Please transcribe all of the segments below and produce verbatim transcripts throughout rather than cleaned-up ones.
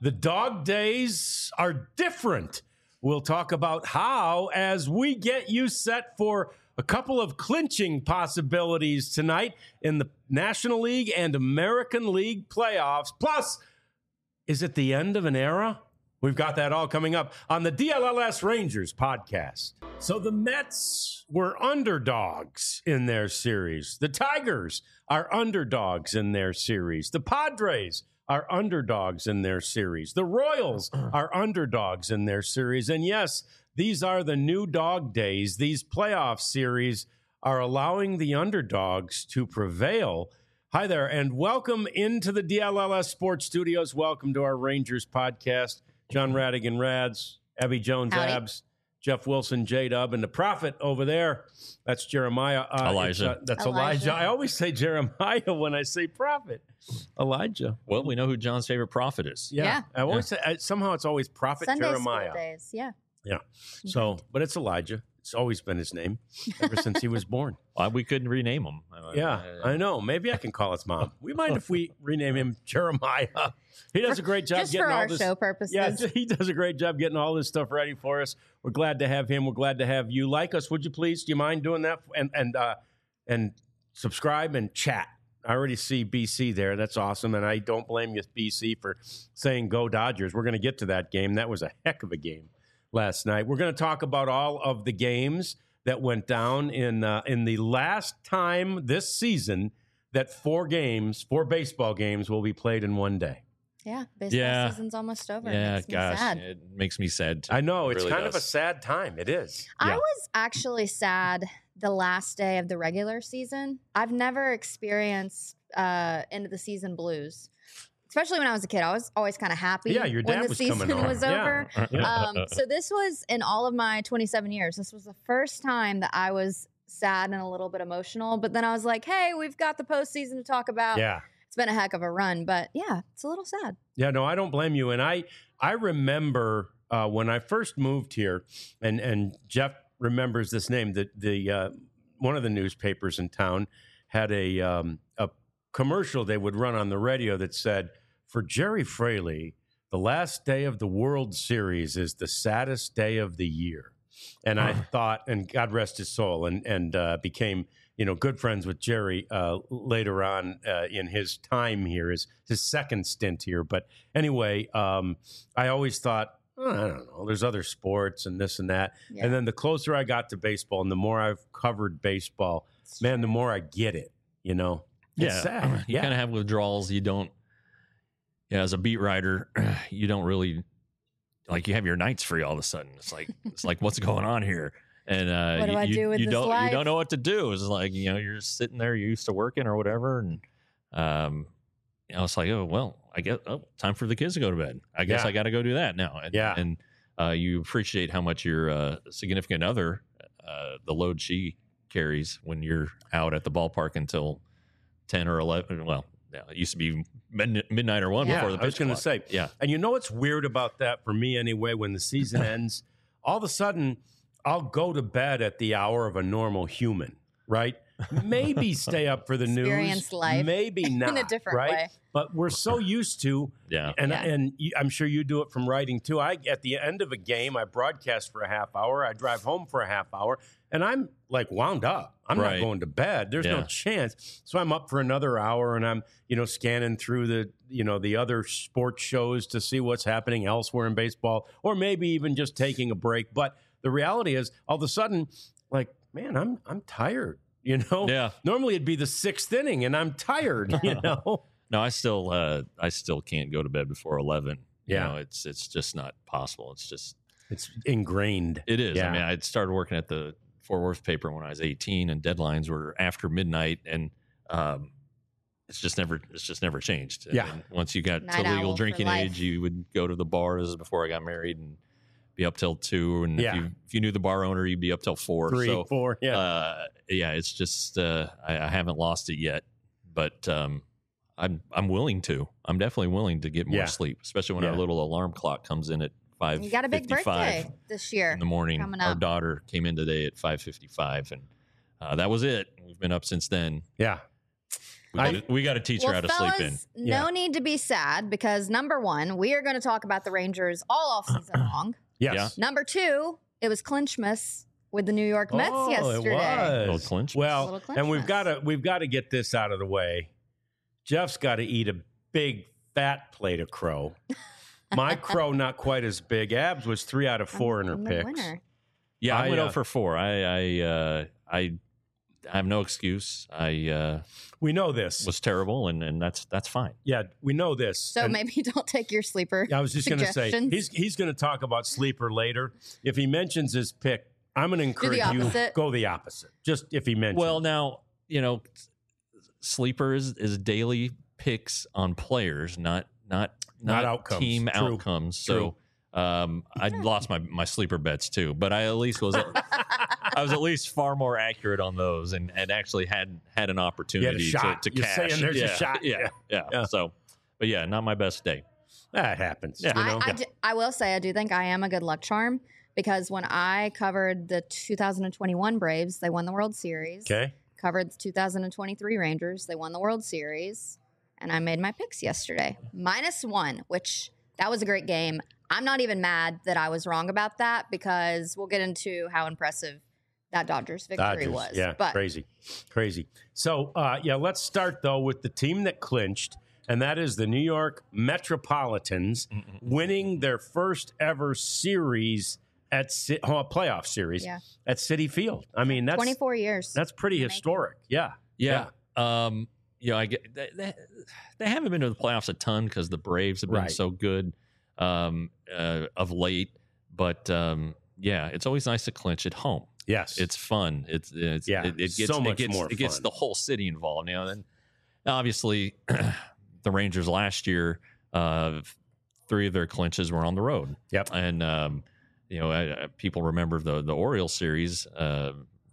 The dog days are different. We'll talk about how as we get you set for a couple of clinching possibilities tonight in the National League and American League playoffs. Plus, is it the end of an era? We've got that all coming up on the D L L S Rangers podcast. So the Mets were underdogs in their series. The Tigers are underdogs in their series. The Padres are underdogs in their series. The Royals are underdogs in their series. And yes, these are the new dog days. These playoff series are allowing the underdogs to prevail. Hi there, and welcome into the D L L S Sports Studios. Welcome to our Rangers podcast. John Radigan, Rads, Abby Jones, Howdy. Abs, Jeff Wilson, J-Dub, and the prophet over there. That's Jeremiah. Uh, Elijah. Uh, that's Elijah. Elijah. I always say Jeremiah when I say prophet. Elijah. Well, we know who John's favorite prophet is. Yeah. Yeah. I always say, I, somehow it's always prophet Sunday Jeremiah. school days, yeah. Yeah. So, but it's Elijah. It's always been his name ever since he was born. Why we couldn't rename him? Yeah, I know. Maybe I can call his mom. We mind if we rename him Jeremiah? He does a great job Just getting for all our this. show purposes. Yeah, he does a great job getting all this stuff ready for us. We're glad to have him. We're glad to have you. Like us, would you please? Do you mind doing that? And and uh, and subscribe and chat. I already see B C there. That's awesome. And I don't blame you, B C, for saying go Dodgers. We're going to get to that game. That was a heck of a game last night. We're going to talk about all of the games that went down in uh, in the last time this season that four games, four baseball games will be played in one day. Yeah, baseball Yeah. season's almost over. It Yeah, makes me gosh, sad. it makes me sad. Too. I know. It It's really kind of a does. sad time. It is. I Yeah. was actually sad the last day of the regular season. I've never experienced uh, end of the season blues, especially when I was a kid. I was always kind of happy Yeah, your when dad the was season coming on. was Yeah. over. Um, so this was in all of my twenty-seven years. This was the first time that I was sad and a little bit emotional. But then I was like, hey, we've got the postseason to talk about. Yeah. It's been a heck of a run, but yeah, it's a little sad. Yeah, no, I don't blame you. And I I remember uh, when I first moved here, and and Jeff remembers this name. That the uh, one of the newspapers in town had a um, a commercial they would run on the radio that said, "For Jerry Fraley, the last day of the World Series is the saddest day of the year." And I thought, and God rest his soul, and and uh, became you know good friends with Jerry uh, later on uh, in his time here, his his second stint here. But anyway, um, I always thought, oh, I don't know, there's other sports and this and that. Yeah. And then the closer I got to baseball, and the more I've covered baseball, It's man, the true. more I get it. You know, it's yeah, sad. you Yeah, kind of have withdrawals. You don't. Yeah, as a beat writer, you don't really like. You have your nights free all of a sudden. It's like it's like what's going on here? And uh, What do you, I you- do with you this don't life? you don't know what to do. It's like you know you're just sitting there. You're used to working or whatever, and um, you know it's like oh well, I guess oh time for the kids to go to bed. I guess Yeah. I got to go do that now. And, Yeah. and uh, you appreciate how much your uh, significant other, uh, the load she carries when you're out at the ballpark until ten or eleven. Well, yeah, it used to be mid- midnight or one Yeah. before the I was pitch going to clock. say, Yeah. And you know what's weird about that for me anyway? When the season ends, all of a sudden I'll go to bed at the hour of a normal human, right? Maybe stay up for the news, Experience life maybe not, in a different right? way. But we're so used to, Yeah. and Yeah. and you, I'm sure you do it from writing too. I at the end of a game, I broadcast for a half hour, I drive home for a half hour, and I'm like wound up. I'm Right. not going to bed. There's no Yeah. chance. So I'm up for another hour, and I'm you know scanning through the you know the other sports shows to see what's happening elsewhere in baseball, or maybe even just taking a break. But the reality is, all of a sudden, like man, I'm I'm tired. You know, Yeah. Normally it'd be the sixth inning, and I'm tired. You know, No, I still, uh, I still can't go to bed before eleven. You Yeah. know, it's it's just not possible. It's just it's ingrained. it is. Yeah. I mean, I started working at the Fort Worth paper when I was eighteen, and deadlines were after midnight, and um, it's just never it's just never changed. And Yeah. then once you got Night to owl legal for drinking life. age, you would go to the bars before I got married and be up till two. And Yeah. if you if you knew the bar owner, you'd be up till four. Three, so, four, yeah. uh, yeah, it's just uh, I, I haven't lost it yet, but um, I'm I'm willing to. I'm definitely willing to get more Yeah. sleep, especially when Yeah. our little alarm clock comes in at five. You got a big birthday this year. in the morning. coming Our up. daughter came in today at five fifty-five, and uh, that was it. We've been up since then. Yeah. We I- gotta, we got to teach well, her how to fellas, sleep in. no Yeah. need to be sad because number one, we are going to talk about the Rangers all off season long. Yes. Yeah. Number two, it was Clinchmas with the New York Mets oh, yesterday. It was. Little clinch. Well, Little and we've Clinchmas. got to we've got to get this out of the way. Jeff's got to eat a big fat plate of crow. My crow not quite as big. Abs was three out of four in her I'm the picks. winner. Yeah, I, I, went uh, out for four. I I uh, I have no excuse. I uh, We know this. was terrible, and, and that's that's fine. Yeah, we know this. So And maybe don't take your sleeper. I was just going to say suggestions. he's he's going to talk about sleeper later. If he mentions his pick, I'm going to encourage you opposite. go the opposite. Just if he mentions. Well, now you know, sleeper is, is daily picks on players, not not Not not, outcomes. team True. outcomes. So um, I lost my my sleeper bets too, but I at least was I was at least far more accurate on those, and, and actually had had an opportunity shot. to, to You're cash. saying there's a yeah, shot. Yeah, Yeah. yeah, Yeah. So, but yeah, not my best day. that happens. Yeah. You know? I, I, d- I will say I do think I am a good luck charm because when I covered the two thousand twenty-one Braves, they won the World Series. okay. Covered the two thousand twenty-three Rangers, they won the World Series, and I made my picks yesterday. Minus one, which that was a great game. I'm not even mad that I was wrong about that because we'll get into how impressive that Dodgers victory Dodgers. was. Yeah, but crazy, crazy. So, uh, yeah, let's start though with the team that clinched, and that is the New York Metropolitans winning their first ever series at Ci- oh, playoff series Yeah. at Citi Field. I mean, that's twenty-four years. that's pretty Making. historic. Yeah, Yeah. Um, you know, I get they, they, they haven't been to the playoffs a ton because the Braves have been Right. so good um, uh, of late. But um, yeah, it's always nice to clinch at home. yes, It's fun. It's it's Yeah, It, it gets so much it gets more it gets fun. the whole city involved. You know, and obviously the Rangers last year, uh, three of their clinches were on the road. Yep. And um, you know, I, I, people remember the the Orioles series. Uh,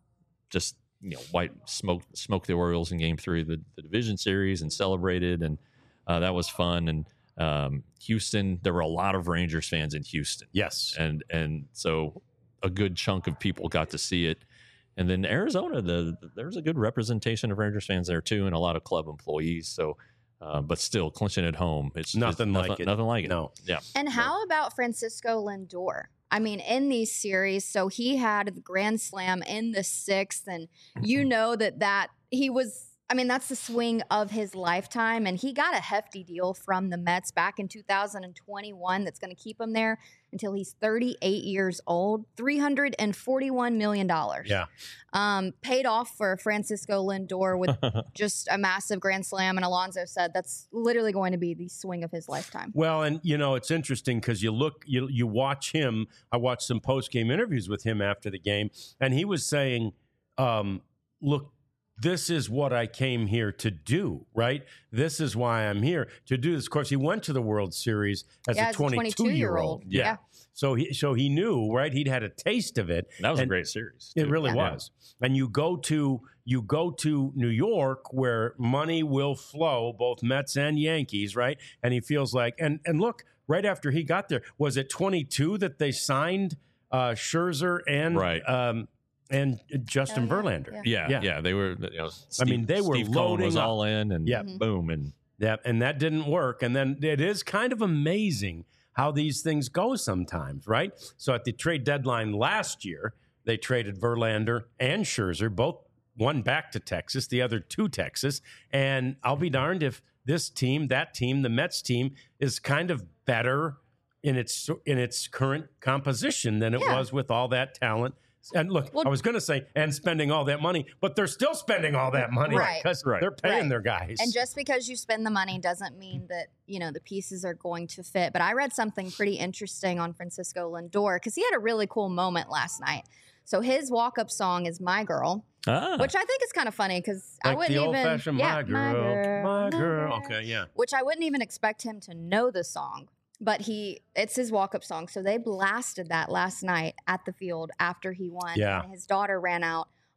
just you know, white smoke smoked the Orioles in Game Three of the, the division series and celebrated, and uh, that was fun. And um, Houston, there were a lot of Rangers fans in Houston, yes, and and so a good chunk of people got to see it. And then Arizona, the, the there's a good representation of Rangers fans there too, and a lot of club employees. So, uh, but still, clinching at home, it's Nothing it's like nothing, it. Nothing like it. no, Yeah. And how about Francisco Lindor? I mean, in these series, so he had the grand slam in the sixth, and you know that that he was. I mean, that's the swing of his lifetime, and he got a hefty deal from the Mets back in two thousand twenty-one. That's going to keep him there until he's thirty-eight years old. three hundred forty-one million dollars. yeah, Um, paid off for Francisco Lindor with just a massive grand slam, and Alonso said that's literally going to be the swing of his lifetime. Well, and you know it's interesting because you look, you you watch him. I watched some post game interviews with him after the game, and he was saying, um, "Look, this is what I came here to do. Right? This is why I'm here to do this." Of course, he went to the World Series as Yeah, a as a twenty-two year old. twenty-two-year-old. Yeah. So he so he knew, right? He'd had a taste of it. That was And a great series. It too. really Yeah. was. And you go to you go to New York where money will flow, both Mets and Yankees, right? And he feels like and and look, right after he got there, was it twenty-two that they signed uh Scherzer and Right. um and Justin Oh, yeah. Verlander. Yeah. Yeah, Yeah. yeah, they were. You know, Steve, mean, they were Steve Cohen loading was up. all in, and Yeah. Mhm. boom, and Yeah, and that didn't work. And then it is kind of amazing how these things go sometimes, right? So at the trade deadline last year, they traded Verlander and Scherzer, both one back to Texas, the other to Texas. And I'll be darned if this team, that team, the Mets team, is kind of better in its in its current composition than it Yeah. was with all that talent. And look, Well- I was going to say, and spending all that money, but they're still spending all that money Right. because Right. they're paying Right. their guys. And just because you spend the money doesn't mean that, you know, the pieces are going to fit. But I read something pretty interesting on Francisco Lindor because he had a really cool moment last night. So his walk-up song is "My Girl," ah, which I think is kind of funny because I like wouldn't the old even fashioned yeah, my girl, my girl. Okay, yeah. which I wouldn't even expect him to know the song. But he, it's his walk-up song. So they blasted that last night at the field after he won. Yeah. And his daughter ran out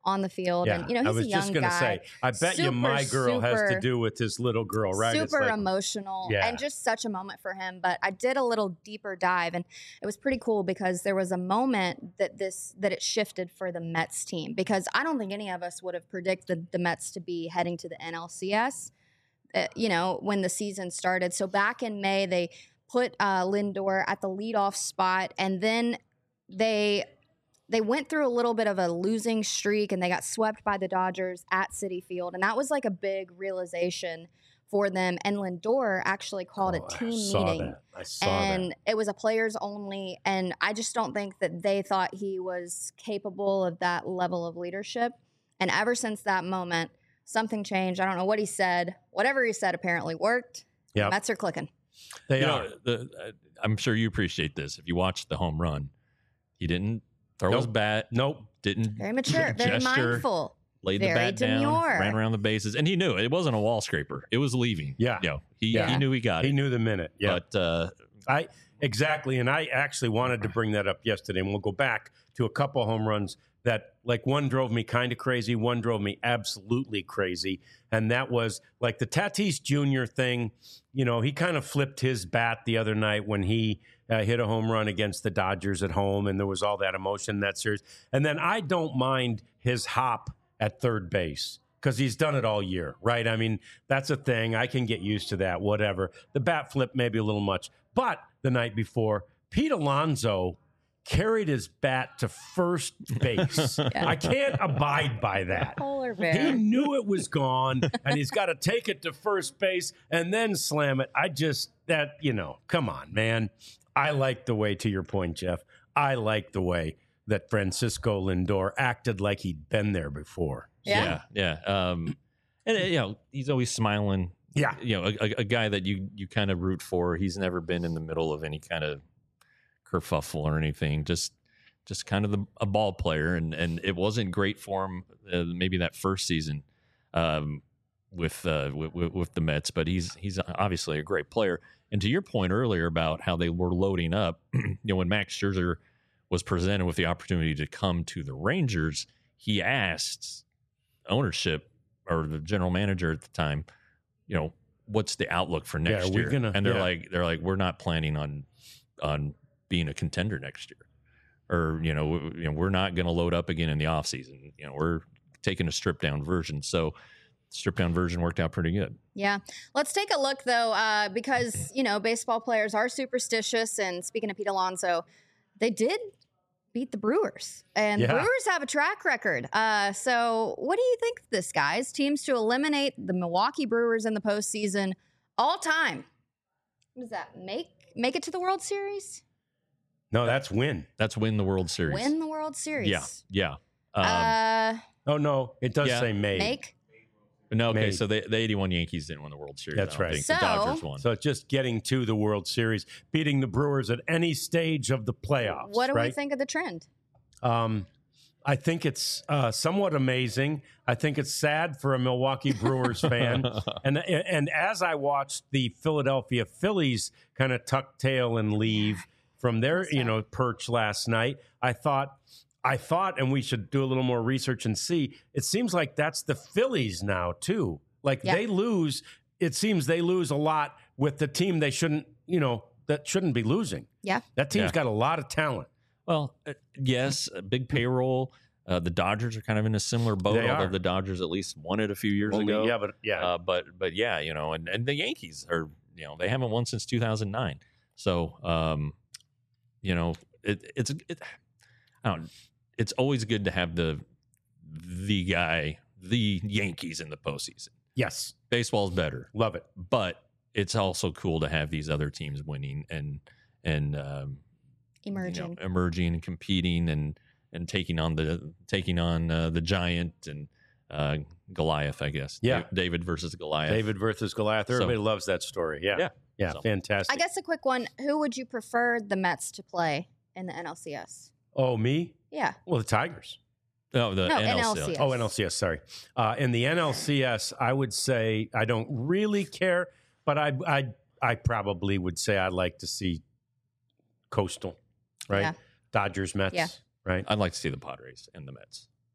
on the field. Yeah, And, you know, he's I was a young just gonna guy. say, I bet you Super, my girl has to super- do with this little girl, right? It's Super like- emotional Yeah. and just such a moment for him. But I did a little deeper dive, and it was pretty cool because there was a moment that this that it shifted for the Mets team, because I don't think any of us would have predicted the Mets to be heading to the N L C S, uh, you know, when the season started. So back in May, they put uh, Lindor at the leadoff spot, and then they they went through a little bit of a losing streak, and they got swept by the Dodgers at Citi Field. And that was like a big realization for them. And Lindor actually called Oh, a team I saw meeting. that. I saw And that. it was a players only. And I just don't think that they thought he was capable of that level of leadership. And ever since that moment, something changed. I don't know what he said. Whatever he said apparently worked. Yep. Mets are clicking. They You are. know, the, uh, I'm sure you appreciate this. If you watch the home run, he didn't throw his Nope. bat, Nope. didn't Very mature, very gesture, mindful. laid the very bat down, demure. ran around the bases, and he knew it wasn't a wall scraper. It was leaving. Yeah. you know, he Yeah. he knew he got He it. knew the minute. Yeah. But uh, I exactly, and I actually wanted to bring that up yesterday, and we'll go back to a couple home runs that, like, one drove me kind of crazy, one drove me absolutely crazy, and that was like the Tatis Junior thing. You know, he kind of flipped his bat the other night when he uh, hit a home run against the Dodgers at home, and there was all that emotion in that series. And then I don't mind his hop at third base, because he's done it all year, right? I mean, that's a thing. I can get used to that, whatever. The bat flip maybe a little much. But the night before, Pete Alonso carried his bat to first base. Yeah. I can't abide by that. Polar He bear. knew it was gone, and he's got to take it to first base and then slam it. I just, that, you know, come on, man. I like the way, to your point, Jeff, I like the way that Francisco Lindor acted like he'd been there before. Yeah. yeah, yeah. Um, and uh, you know, he's always smiling. Yeah. You know, a, a, a guy that you you kind of root for. He's never been in the middle of any kind of kerfuffle or anything. Just just kind of the, a ball player, and and it wasn't great for him. Uh, maybe that first season um, with, uh, with with the Mets, but he's he's obviously a great player. And to your point earlier about how they were loading up, you know, when Max Scherzer was presented with the opportunity to come to the Rangers, he asked ownership or the general manager at the time, you know, what's the outlook for next are we year? gonna- and they're yeah. like, they're like, we're not planning on on being a contender next year, or you know, w- you know, we're not going to load up again in the offseason. You know, we're taking a stripped down version. So, stripped down version worked out pretty good. Yeah. Let's take a look, though, uh, because, you know, baseball players are superstitious. And speaking of Pete Alonso, they did beat the Brewers. And Yeah. the Brewers have a track record. Uh, so what do you think of this, guys? Teams to eliminate the Milwaukee Brewers in the postseason all time. What does that make? Make it to the World Series? No, that's win. That's win the World Series. Win the World Series? Yeah, yeah. Um, uh, Oh, no, it does Yeah. say made. make? no, okay. made. So the, the eighty-one Yankees didn't win the World Series. That's I don't right. think. So- the Dodgers won. So it's just getting to the World Series, beating the Brewers at any stage of the playoffs. What do right? we think of the trend? Um, I think it's uh, somewhat amazing. I think it's sad for a Milwaukee Brewers fan. And and as I watched the Philadelphia Phillies kind of tuck tail and leave from their, you know, perch last night, I thought I thought and we should do a little more research and see. It seems like that's the Phillies now too. Like Yeah. they lose, it seems they lose a lot with the team they shouldn't, you know, that shouldn't be losing. Yeah. That team's Yeah. got a lot of talent. Well, uh, yes, a big payroll. Uh, the Dodgers are kind of in a similar boat, They although are. the Dodgers at least won it a few years Only- ago. yeah, but yeah. Uh, but but yeah, you know, and, and the Yankees are, you know, they haven't won since two thousand nine. So, um, you know, it, it's it, I don't. It's always good to have the the guy, the Yankees in the postseason. yes. Baseball's better, Love it. but it's also cool to have these other teams winning and and um, Emerging. you know, emerging and competing and and taking on the taking on uh, the giant and uh, Goliath, I guess. Yeah. Da- David versus Goliath. David versus Goliath. So- Everybody loves that story. Yeah. Yeah. Yeah. So- Fantastic. I guess a quick one. Who would you prefer the Mets to play in the N L C S? Oh, me? Yeah. Well, the Tigers. Oh, the No, N L C L. N L C S. Oh, N L C S. Sorry. Uh, in the N L C S, I would say I don't really care, but I, I, I probably would say I'd like to see Coastal, right? Yeah. Dodgers, Mets, Yeah. right? I'd like to see the Padres and the Mets.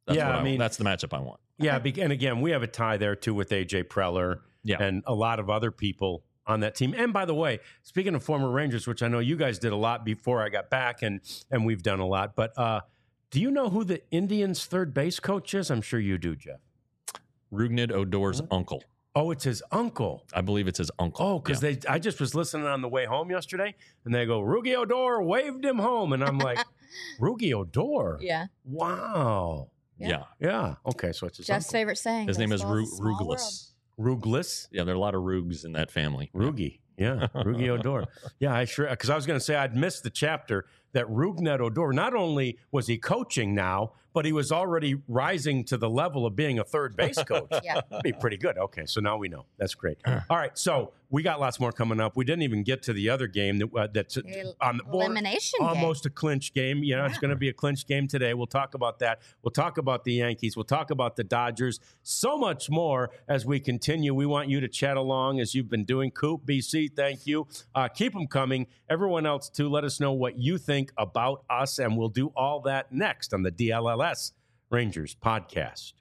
That's Yeah, what I I mean- mean, that's the matchup I want. Yeah, be- and again, we have a tie there too with A J Preller Yeah. and a lot of other people on that team. And by the way, speaking of former Rangers, which I know you guys did a lot before I got back, and and we've done a lot, but uh, do you know who the Indians' third base coach is? I'm sure you do, Jeff. Rugned Odor's uncle. Oh, it's his uncle. I believe it's his uncle. Oh, because Yeah. they I just was listening on the way home yesterday, and they go, Rugi Odor waved him home. And I'm like, Rugi Odor? Yeah. Wow. Yeah. Yeah. Okay, so it's his Jeff's uncle. favorite saying. His name is baseball's Ru- a small world. Rugless. Ruglis? Yeah, there are a lot of Rugs in that family. Rugi. Yeah, Rugi Odor. Yeah, I sure, because I was going to say I'd missed the chapter that Rugnet Odor, not only was he coaching now, but he was already rising to the level of being a third base coach. Yeah. That'd be pretty good. Okay, so now we know. That's great. All right, so we got lots more coming up. We didn't even get to the other game that, uh, that's El- on the board. Elimination game. Almost a clinch game. You know, it's going to be a clinch game today. We'll talk about that. We'll talk about the Yankees. We'll talk about the Dodgers. So much more as we continue. We want you to chat along as you've been doing. Coop, B C, thank you. Uh, keep them coming. Everyone else, too, let us know what you think about us, and we'll do all that next on the D L L S Rangers podcast.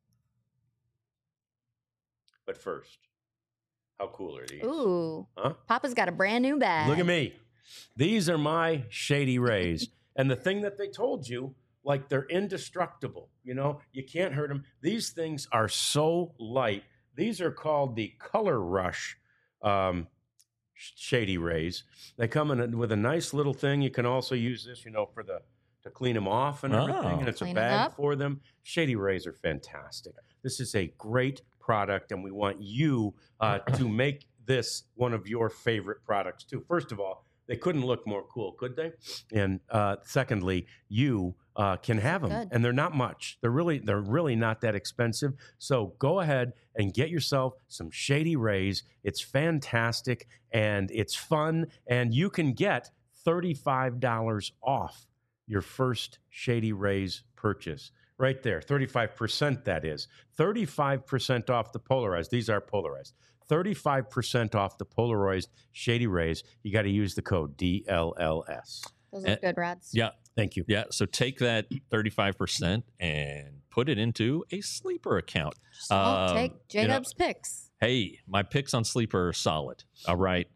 But first, how cool are these? Ooh. Huh? Papa's got a brand new bag. Look at me. These are my Shady Rays. And the thing that they told you, like they're indestructible. You know, you can't hurt them. These things are so light. These are called the Color Rush um, Shady Rays. They come in a, with a nice little thing. You can also use this, you know, for the to clean them off and everything. Oh. And it's Clean a it bag up. for them. Shady Rays are fantastic. This is a great product, and we want you uh, to make this one of your favorite products too. First of all, they couldn't look more cool, could they? And uh, secondly, you uh, can have them, Good. and they're not much. They're really, they're really not that expensive. So go ahead and get yourself some Shady Rays. It's fantastic and it's fun, and you can get thirty-five dollars off your first Shady Rays purchase. Right there, thirty-five percent that is. thirty-five percent off the polarized. These are polarized. thirty-five percent off the polarized Shady Rays. You got to use the code D L L S. Those Eh, look good, Rads. Yeah. Thank you. Yeah. So take that thirty-five percent and put it into a sleeper account. I'll Um, take you know, Jacob's picks. Hey, my picks on Sleeper are solid. All right.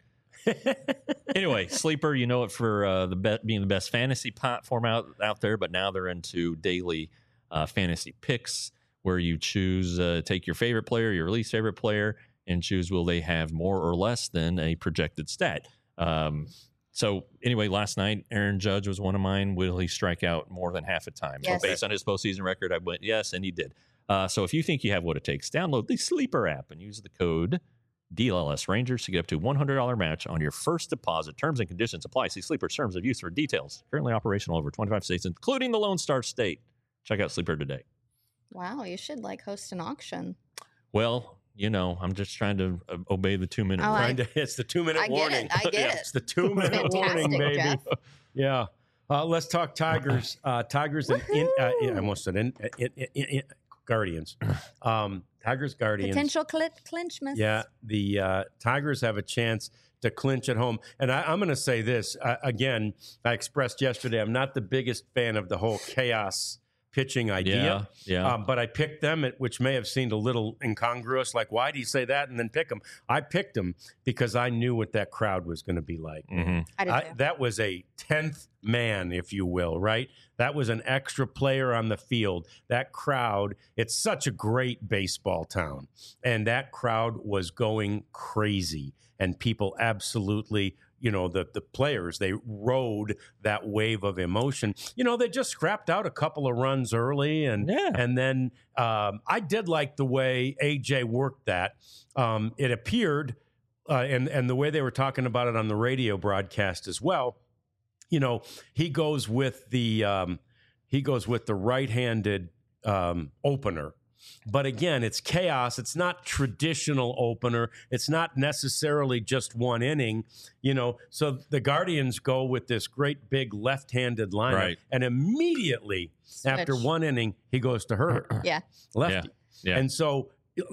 Anyway, Sleeper, you know it for uh, the be- being the best fantasy platform out, out there, but now they're into daily uh, fantasy picks where you choose, uh, take your favorite player, your least favorite player, and choose will they have more or less than a projected stat. Um, so anyway, last night, Aaron Judge was one of mine. Will he strike out more than half a time? Yes. Based on his postseason record, I went yes, and he did. Uh, so if you think you have what it takes, download the Sleeper app and use the code D L L S Rangers to get up to one hundred dollars match on your first deposit. Terms and conditions apply. See Sleeper's terms of use for details. Currently operational over twenty-five states, including the Lone Star State. Check out Sleeper today. Wow, you should like host an auction. Well, you know, I'm just trying to uh, obey the two minute Oh, rule. I- Trying to, it's the two minute I get warning. it. I get Yeah. it. It's the two minute Fantastic, warning, baby. Jeff. Yeah. Uh, let's talk Tigers. Uh, Tigers and in, uh, I almost said in, in, in, in, in, Guardians. Um, Tigers, Guardians. Potential cl- clinch miss. Yeah, the uh, Tigers have a chance to clinch at home. And I, I'm going to say this uh, again. I expressed yesterday I'm not the biggest fan of the whole chaos pitching idea. Yeah, yeah. Um, but I picked them, at- which may have seemed a little incongruous. Like, why do you say that and then pick them? I picked them because I knew what that crowd was going to be like. Mhm. I did I, too. that was a tenth man, if you will, right? That was an extra player on the field. That crowd, it's such a great baseball town. And that crowd was going crazy. And people absolutely, you know, the, the players, they rode that wave of emotion. You know, they just scrapped out a couple of runs early. And, Yeah. and then um, I did like the way A J worked that. Um, it appeared, uh, and, and the way they were talking about it on the radio broadcast as well, you know, he goes with the um, he goes with the right-handed um, opener. But again, it's chaos. It's not traditional opener. It's not necessarily just one inning, you know. So the Guardians go with this great big left-handed lineup, Right. and immediately after Switch. one inning, he goes to Herbert, Yeah. lefty. Yeah. And so, like,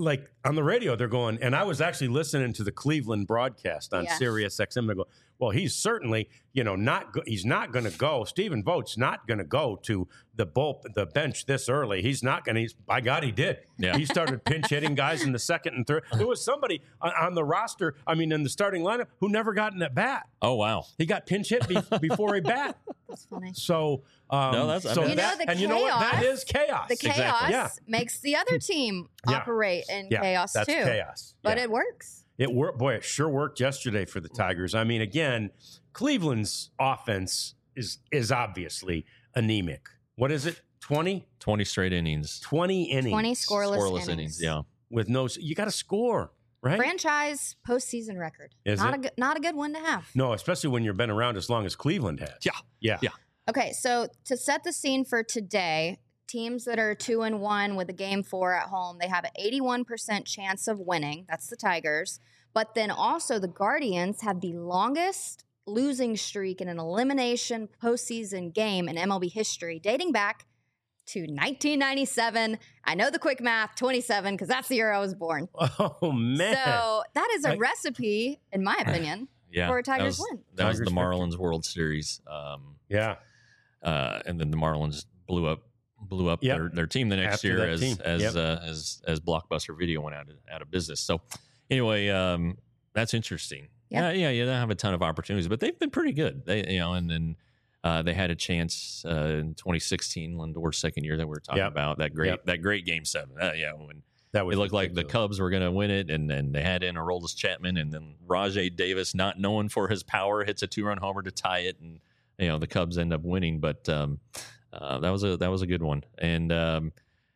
on the radio, they're going, and I was actually listening to the Cleveland broadcast on Yeah. Sirius X M. They go, well, he's certainly, you know, not go- he's not going to go. Stephen Vogt's not going to go to the bull, the bench this early. He's not going to. By God, he did. Yeah. He started pinch hitting guys in the second and third. There was somebody on, on the roster, I mean, in the starting lineup, who never got in at bat. Oh, wow. He got pinch hit be- before he bat. That's funny. So, um, No, that's- I so mean- You know, that, the and you know what? That chaos- is chaos. The chaos Exactly. Yeah. makes the other team Yeah. operate in Yeah, chaos that's too. chaos. But Yeah. it works. It worked. Boy, it sure worked yesterday for the Tigers. I mean, again, Cleveland's offense is is obviously anemic. What is it? twenty? twenty straight innings. twenty innings. twenty scoreless, Scoreless innings. innings. Yeah. With no, you got to score, right? Franchise postseason record. Is not it? a good, not a good one to have. No, especially when you've been around as long as Cleveland has. Yeah. Yeah. Yeah. Okay, so to set the scene for today, teams that are two and one with a game four at home, they have an eighty-one percent chance of winning. That's the Tigers. But then also the Guardians have the longest losing streak in an elimination postseason game in M L B history, dating back to nineteen ninety-seven. I know the quick math, twenty-seven, because that's the year I was born. Oh, man. So that is a I- recipe, in my opinion. Yeah. For a that Tigers was, win. That was the Tigers Marlins World Series. Um, yeah. uh, and then the Marlins blew up blew up Yep. their, their team the next After year that as team. as Yep. uh, as as Blockbuster Video went out of, out of business. So anyway, um, that's interesting. Yeah. Yeah, yeah, you don't have a ton of opportunities, but they've been pretty good. They you know, and then uh, they had a chance uh, in twenty sixteen, Lindor's second year that we were talking Yep. about that great Yep. that great game seven. Uh, yeah, when That was it looked like the ridiculous. Cubs were going to win it, and then they had in Aroldis Chapman, and then Rajay Davis, not known for his power, hits a two-run homer to tie it, and you know the Cubs end up winning. But um, uh, that was a that was a good one, and um,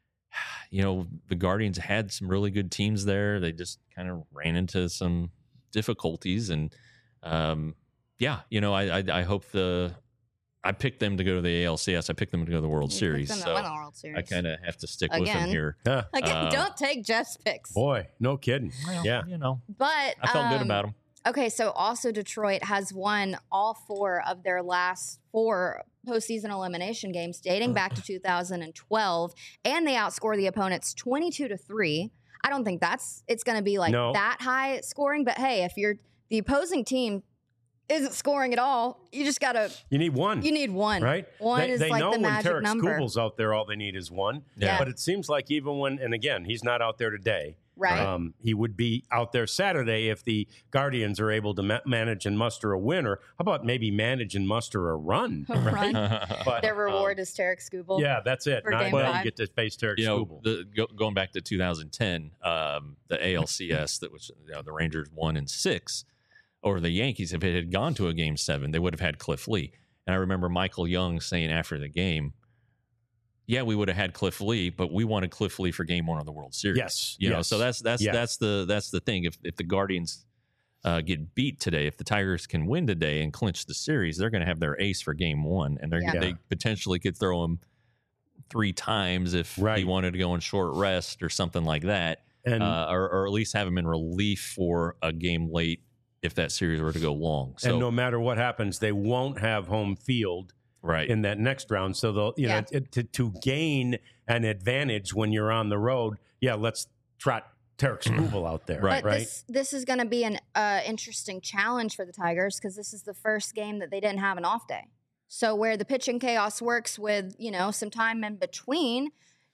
you know the Guardians had some really good teams there. They just kind of ran into some difficulties, and um, yeah, you know I, I I hope the I picked them to go to the A L C S. I picked them to go to the World You picked Series, them to so win the World Series. I kind of have to stick with them Again. here. Huh. Again, uh, don't take Jeff's picks. Boy, no kidding. Well, Yeah. you know. But I felt good um, about them. Okay, so also Detroit has won all four of their last four postseason elimination games dating back to two thousand twelve, and they outscore the opponents twenty-two to three. I don't think that's it's going to be like No. that high scoring, but hey, if you're the opposing team isn't scoring at all, you just got to You need one. you need one. Right? One they, is they like know the when magic Tarek number. Skubal's out there, all they need is one. Yeah. But it seems like even when, and again, he's not out there today. Right. Um, he would be out there Saturday if the Guardians are able to ma- manage and muster a win, or how about maybe manage and muster a run? A run. But, Their reward um, is Tarek Skubal. yeah, that's it. For Now game you five. get to face Tarek you know, Skubal. the, go, going back to two thousand ten, um, the A L C S that was you know, the Rangers won in six, or the Yankees, if it had gone to a game seven, they would have had Cliff Lee. And I remember Michael Young saying after the game, "Yeah, we would have had Cliff Lee, but we wanted Cliff Lee for Game One of the World Series." Yes, you know, yes, so that's that's yes. that's the that's the thing. If if the Guardians uh, get beat today, if the Tigers can win today and clinch the series, they're going to have their ace for Game One, and they're Yeah. they potentially could throw him three times if Right. he wanted to go in short rest or something like that, And uh, or, or at least have him in relief for a game late if that series were to go long. So and no matter what happens, they won't have home field right, in that next round. So they'll, you Yeah. know, it, to, to gain an advantage when you're on the road, yeah, let's trot Tarek Skubal out there. Right. But right. this this is going to be an uh, interesting challenge for the Tigers because this is the first game that they didn't have an off day. So where the pitching chaos works with you know some time in between,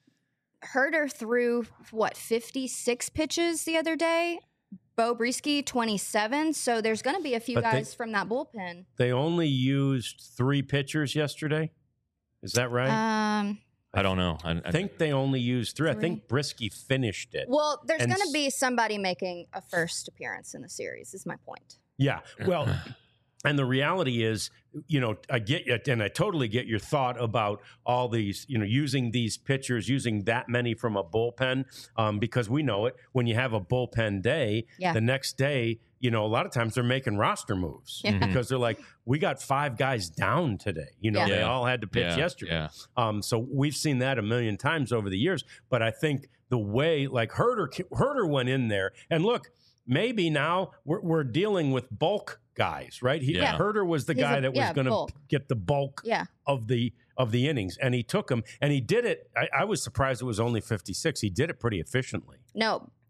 Herter threw what fifty-six pitches the other day. Bo Brisky twenty-seven. So there's going to be a few But they- guys from that bullpen. They only used three pitchers yesterday. Is that right? Um, I don't know. I, I think they only used three. I Three. think Brisky finished it. well, there's And going to s- be somebody making a first appearance in the series. Is my point. Yeah. Well, and the reality is, you know, I get it, and I totally get your thought about all these, you know, using these pitchers, using that many from a bullpen, um, because we know it. When you have a bullpen day, Yeah. the next day, you know, a lot of times they're making roster moves Yeah. Mhm. because they're like, we got five guys down today. You know, Yeah. they Yeah. all had to pitch yeah, yesterday. Yeah. Um, so we've seen that a million times over the years. But I think the way, like Herter, Herter went in there, and look, maybe now we're, we're dealing with bulk guys, right? He, Yeah. Herter was the He's guy a- that was yeah, going to bulk. get the bulk Yeah. of the of the innings, and he took him, and he did it. I, I was surprised it was only fifty-six. He did it pretty efficiently. No,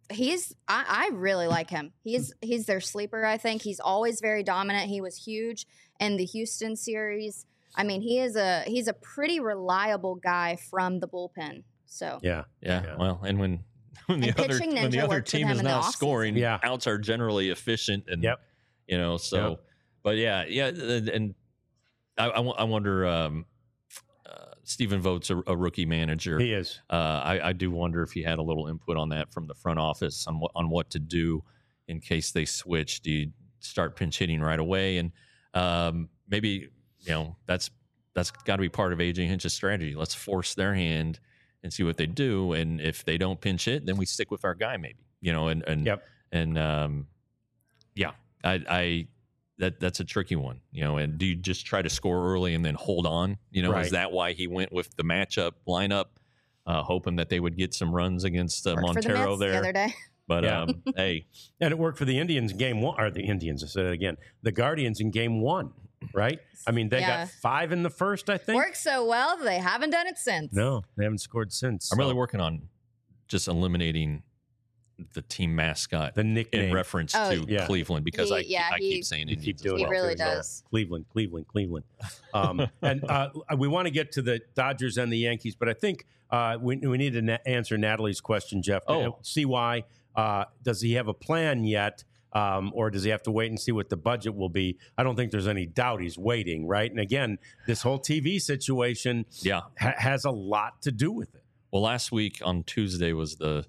he's I, I really like him. He's he's their sleeper, I think. He's always very dominant. He was huge in the Houston series. I mean, he is a he's a pretty reliable guy from the bullpen. So Yeah. Yeah. Yeah. Well, and when when the And other pitching when the ninja other worked with team him is in the not offseason. scoring, Yeah. outs are generally efficient, and Yep. you know. So, Yep. but yeah, yeah, and, and I, I, wo- I wonder. Um, uh, Stephen Vogt's a, a rookie manager. He is. Uh, I, I do wonder if he had a little input on that from the front office on what on what to do in case they switch. Do you start pinch hitting right away? And um, maybe you know that's that's got to be part of A J Hinch's strategy. Let's force their hand and see what they do. And if they don't pinch hit, then we stick with our guy, maybe. You know, and and Yep. and um, yeah, I, I that that's a tricky one. You know, and do you just try to score early and then hold on? You know, Right. is that why he went with the matchup lineup? Uh, hoping that they would get some runs against uh, worked for the Montero Mets the there. other day. But Yeah. um, hey, And it worked for the Indians in game one, or the Indians, I said it again, the Guardians in game one, right? I mean, they Yeah. got five in the first, I think. Worked so well, they haven't done it since. No, they haven't scored since. I'm really so working on just eliminating the team mascot the in nickname. reference Oh, to yeah. Cleveland because He- I, yeah, I he- keep saying You Indians keep as doing He well. it. really There's, uh, does. Cleveland, Cleveland, Cleveland. Um, and uh, we want to get to the Dodgers and the Yankees, but I think uh, we, we need to na- answer Natalie's question, Jeff. Oh. See why. Uh, does he have a plan yet? Um, or does he have to wait and see what the budget will be? I don't think there's any doubt he's waiting, right? And again, this whole T V situation Yeah. ha- has a lot to do with it. Well, last week on Tuesday was the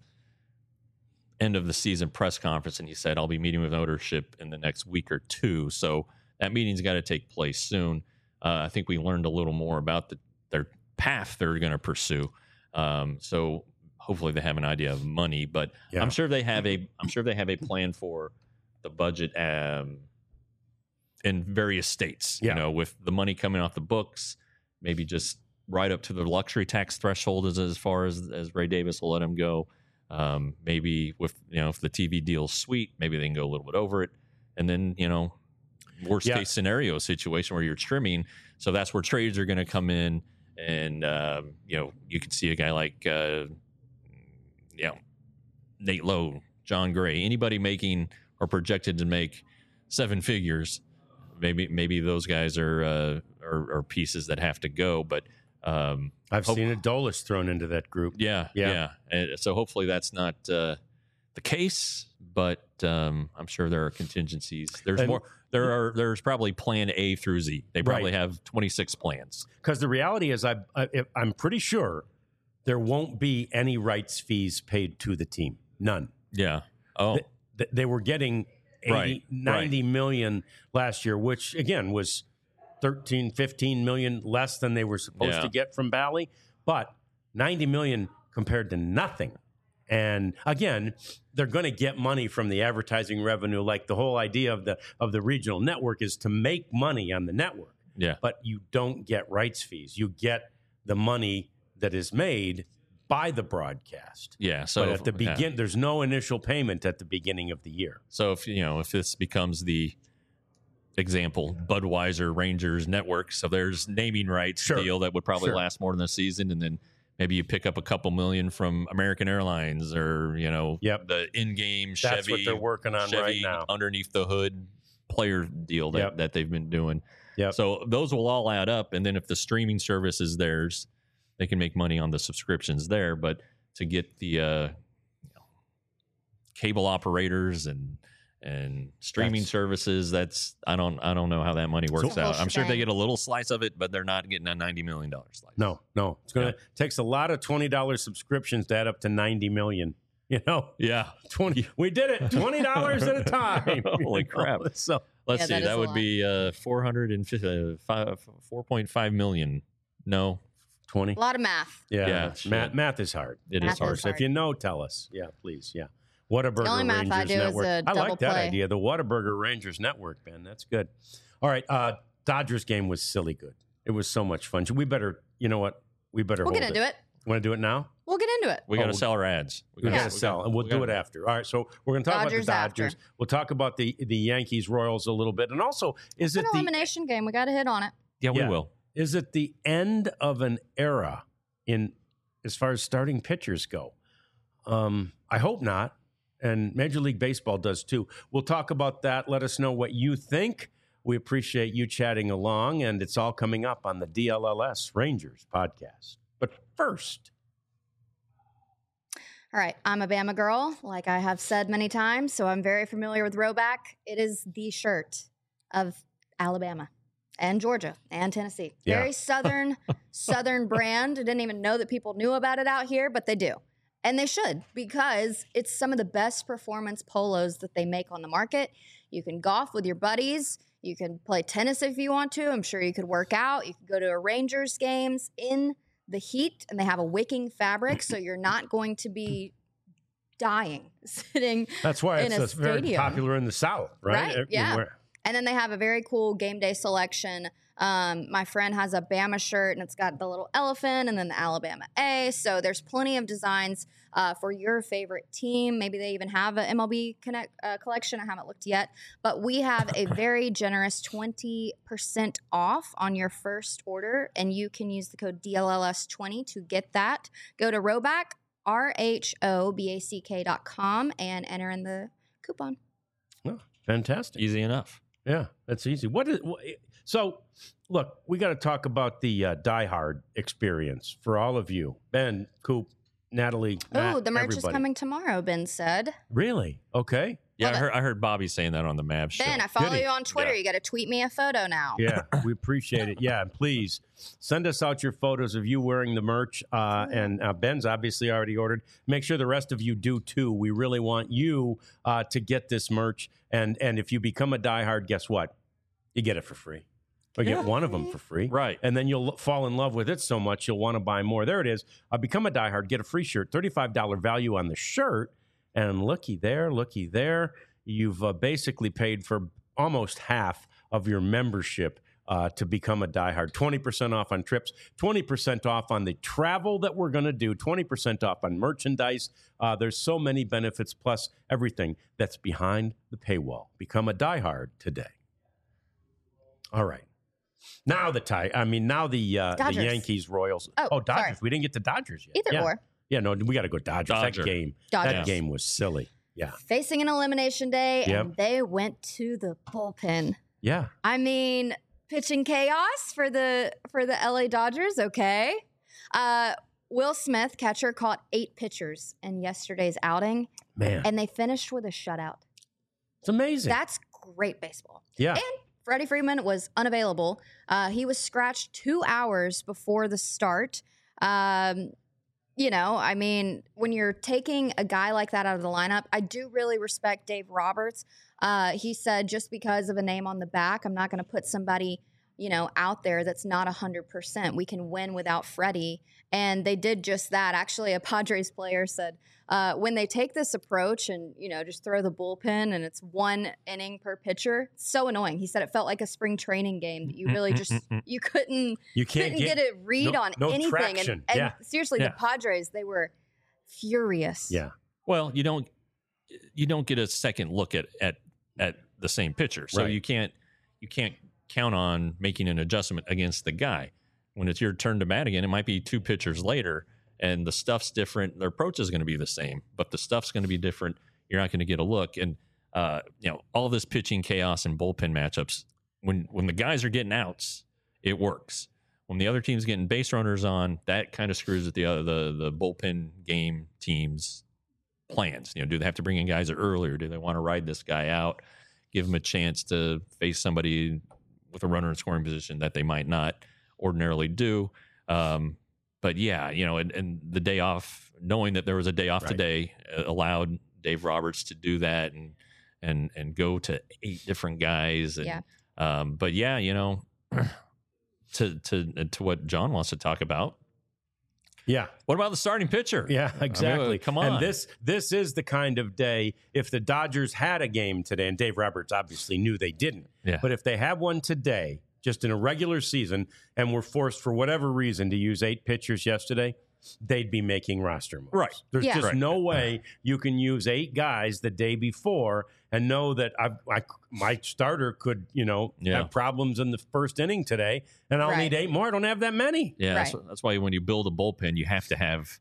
end of the season press conference, and he said, I'll be meeting with ownership in the next week or two. So that meeting's got to take place soon. Uh, I think we learned a little more about the, their path they're going to pursue. Um, so hopefully they have an idea of money, but Yeah. I'm sure they have a I'm sure they have a plan for the budget um, in various states. Yeah. You know, with the money coming off the books, maybe just right up to the luxury tax threshold as as far as as Ray Davis will let him go. Um, maybe with you know if the T V deal's sweet, maybe they can go a little bit over it, and then you know worst Yeah. case scenario situation where you're trimming. So that's where trades are going to come in, and um, you know you can see a guy like uh, you know Nate Lowe, John Gray, anybody making or projected to make seven figures. Maybe maybe those guys are uh, are, are pieces that have to go, but. Um, I've Hope- seen Adolis thrown into that group. yeah, Yeah. yeah. And so hopefully that's not uh, the case, but um, I'm sure there are contingencies. There's And- more. There are. There's probably Plan A through Z. They probably Right. have twenty-six plans. Because the reality is, I, I, I'm pretty sure there won't be any rights fees paid to the team. None. Yeah. Oh, Th- th- They were getting eighty, Right, ninety million last year, which again was thirteen, fifteen million less than they were supposed Yeah. to get from Bally, but ninety million compared to nothing. And again, they're going to get money from the advertising revenue. Like the whole idea of the of the regional network is to make money on the network, yeah. but you don't get rights fees. You get the money that is made by the broadcast. Yeah. So but at the yeah. begin, there's no initial payment at the beginning of the year. So if you know if this becomes the example, Budweiser Rangers Network, so there's naming rights Sure. deal that would probably Sure. last more than a season, and then maybe you pick up a couple million from American Airlines or you know Yep. the in-game That's Chevy. what they're working on Chevy right now. underneath the hood player deal that, Yep. that they've been doing. Yep. So those will all add up. And then if the streaming service is theirs, they can make money on the subscriptions there. But to get the uh, you know, cable operators and and streaming That's- services, that's I don't I don't know how that money works the whole out. I'm sure they shebang. get a little slice of it, but they're not getting a ninety million dollar slice. No, no. It's gonna takes a lot of twenty dollars subscriptions to add up to ninety million. You know, Yeah. twenty. We did it. Twenty dollars at a time. Holy You know? crap. So Let's Yeah, see. that That, is a would lot. be uh, four hundred and four point five million. No, twenty. A lot of math. Yeah, Yeah, it's- math, shit. math is hard. it Math is is hard. hard. So if you know, tell us. Yeah, please. Yeah. Whataburger only math I Rangers do is Network. a I double like that play. idea. The Whataburger Rangers Network, Ben. That's good. All right. Uh, Dodgers game was silly good. It was so much fun. We better, you know what? We better We'll hold get into it. Want to do it now? We'll get into it. We got to Oh, sell our ads. We gotta- got to we sell, gotta- and we'll we do gotta- it after. All right, so we're going to talk Dodgers about the Dodgers. after. We'll talk about the the Yankees Royals a little bit, and also is It's it an the elimination game. We got to hit on it. Yeah, we Yeah. will. is it the end of an era in as far as starting pitchers go? Um, I hope not. And Major League Baseball does too. We'll talk about that. Let us know what you think. We appreciate you chatting along, and it's all coming up on the D L L S Rangers podcast. But first, all right, I'm a Bama girl, like I have said many times, so I'm very familiar with Rhoback. It is the shirt of Alabama and Georgia and Tennessee. Yeah. Very southern, southern brand. I didn't even know that people knew about it out here, but they do. And they should, because it's some of the best performance polos that they make on the market. You can golf with your buddies. You can play tennis if you want to. I'm sure you could work out. You could go to a Rangers games in the heat, and they have a wicking fabric, so you're not going to be dying sitting that's why in it's a very stadium. popular in the South, right? Right, yeah. Everywhere. And then they have a very cool game day selection. Um, my friend has a Bama shirt, and it's got the little elephant and then the Alabama A. So there's plenty of designs uh, for your favorite team. Maybe they even have an M L B connect, uh, collection. I haven't looked yet. But we have a very generous twenty percent off on your first order, and you can use the code D L L S twenty to get that. Go to Rhoback, R H O B A C K dot com, and enter in the coupon. Oh, fantastic. Easy enough. Yeah, that's easy. What is what, so? Look, we got to talk about the uh, Die Hard experience for all of you, Ben, Coop, Natalie. Oh, the merch everybody. is coming tomorrow, Ben said. Really? Okay. Yeah, Love I it. heard, I heard Bobby saying that on the Mavs show. Ben, I follow Did he? you on Twitter. Yeah. You got to tweet me a photo now. Yeah, we appreciate it. Yeah, and please send us out your photos of you wearing the merch. Uh, and uh, Ben's obviously already ordered. Make sure the rest of you do too. We really want you uh, to get this merch. And and if you become a diehard, guess what? You get it for free. Or get one of them for free. Right. And then you'll fall in love with it so much you'll want to buy more. There it is. Uh, become a diehard. Get a free shirt. thirty-five dollars value on the shirt. And looky there, looky there. You've uh, basically paid for almost half of your membership uh, to become a diehard. twenty percent off on trips, twenty percent off on the travel that we're going to do, twenty percent off on merchandise. Uh, there's so many benefits, plus everything that's behind the paywall. Become a diehard today. All right. Now the tie. I mean, now the uh, the Dodgers. Yankees, Royals. Oh, Dodgers. sorry. We didn't get to Dodgers yet. Either yeah. or. Yeah, no, we got to go Dodgers. Dodger. That game. Dodgers. That game was silly. Yeah. Facing an elimination day, Yep. and they went to the bullpen. Yeah. I mean, pitching chaos for the for the L A Dodgers. Okay. Uh, Will Smith, catcher, caught eight pitchers in yesterday's outing, Man, and they finished with a shutout. it's amazing. That's great baseball. yeah. And Freddie Freeman was unavailable. Uh, he was scratched two hours before the start. Um, you know, I mean, when you're taking a guy like that out of the lineup, I do really respect Dave Roberts. Uh, he said, just because of a name on the back, I'm not going to put somebody, you know, out there that's not one hundred percent. We can win without Freddie. And they did just that. Actually, a Padres player said, uh, when they take this approach and, you know, just throw the bullpen and it's one inning per pitcher, it's so annoying. He said it felt like a spring training game that you really just, you couldn't, You can't couldn't get, a read no- on no anything. traction. And, and Yeah. seriously, Yeah. the Padres, they were furious. Yeah. Well, you don't you don't get a second look at at at the same pitcher, so Right. you can't you can't count on making an adjustment against the guy. When it's your turn to bat again, it might be two pitchers later, and the stuff's different. Their approach is going to be the same, but the stuff's going to be different. You're not going to get a look, and uh, you know all this pitching chaos and bullpen matchups. When when the guys are getting outs, it works. When the other team's getting base runners on, that kind of screws with the uh, the the bullpen game teams' plans. You know, do they have to bring in guys earlier? Do they want to ride this guy out, give him a chance to face somebody with a runner in scoring position that they might not ordinarily do? Um, but yeah, you know, and, and the day off, knowing that there was a day off Right. today, uh, allowed Dave Roberts to do that and and and go to eight different guys. And, Yeah. Um, but yeah, you know. To to to what John wants to talk about. Yeah. What about the starting pitcher? Yeah, I mean, exactly. come on. And this this is the kind of day, if the Dodgers had a game today, and Dave Roberts obviously knew they didn't, Yeah. but if they had one today, just in a regular season, and were forced for whatever reason to use eight pitchers yesterday, they'd be making roster moves. Right. There's Yeah. just Right. no way you can use eight guys the day before and know that I, I, my starter could, you know, Yeah. have problems in the first inning today, and I'll Right. need eight more. I don't have that many. Yeah, that's, Right. that's why when you build a bullpen, you have to have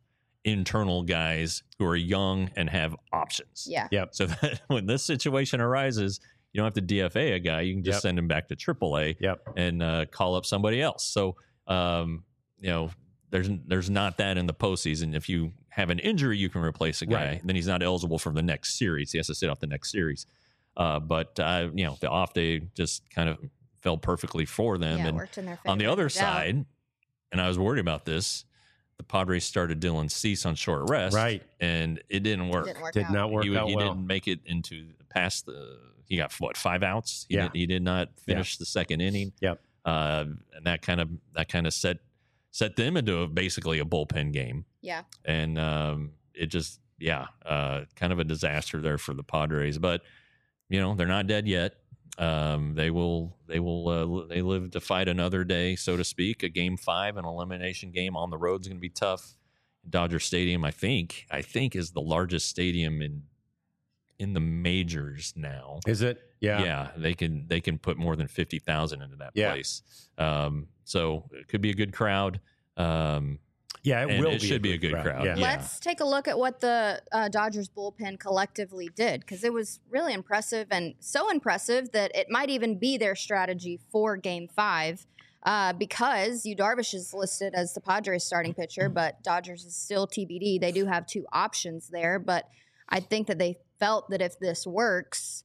internal guys who are young and have options. Yeah. Yep. So that when this situation arises, you don't have to D F A a guy. You can just Yep. send him back to triple A Yep. and uh, call up somebody else. So, um, you know, there's there's not that in the postseason. If you have an injury, you can replace a guy. Right. Then he's not eligible for the next series. He has to sit off the next series. Uh, but, uh, you know, the off day just kind of fell perfectly for them. Yeah, it and worked in their favor. on the other no doubt. side, and I was worried about this, the Padres started Dylan Cease on short rest. Right. And it didn't work. Didn't work Did out. not work he out he well. didn't make it into past the, he got what, five outs? He, Yeah. did, he did not finish the second inning. Yep. Uh, and that kind of, that kind of set, set them into a, basically a bullpen game. Yeah. And um, it just, yeah, uh, kind of a disaster there for the Padres. But, you know, they're not dead yet. Um, they will, they will, uh, they live to fight another day, so to speak. A game five, an elimination game on the road is going to be tough. Dodger Stadium, I think, I think is the largest stadium in in the majors now. Is it? Yeah. Yeah, they can they can put more than fifty thousand into that Yeah. place. Um, so it could be a good crowd. Um, Yeah, it And will it be should be a good crowd. Yeah. Yeah. Let's take a look at what the uh, Dodgers bullpen collectively did, because it was really impressive, and so impressive that it might even be their strategy for Game Five. Uh, because Yu Darvish is listed as the Padres starting pitcher, but Dodgers is still T B D. They do have two options there, but I think that they felt that if this works,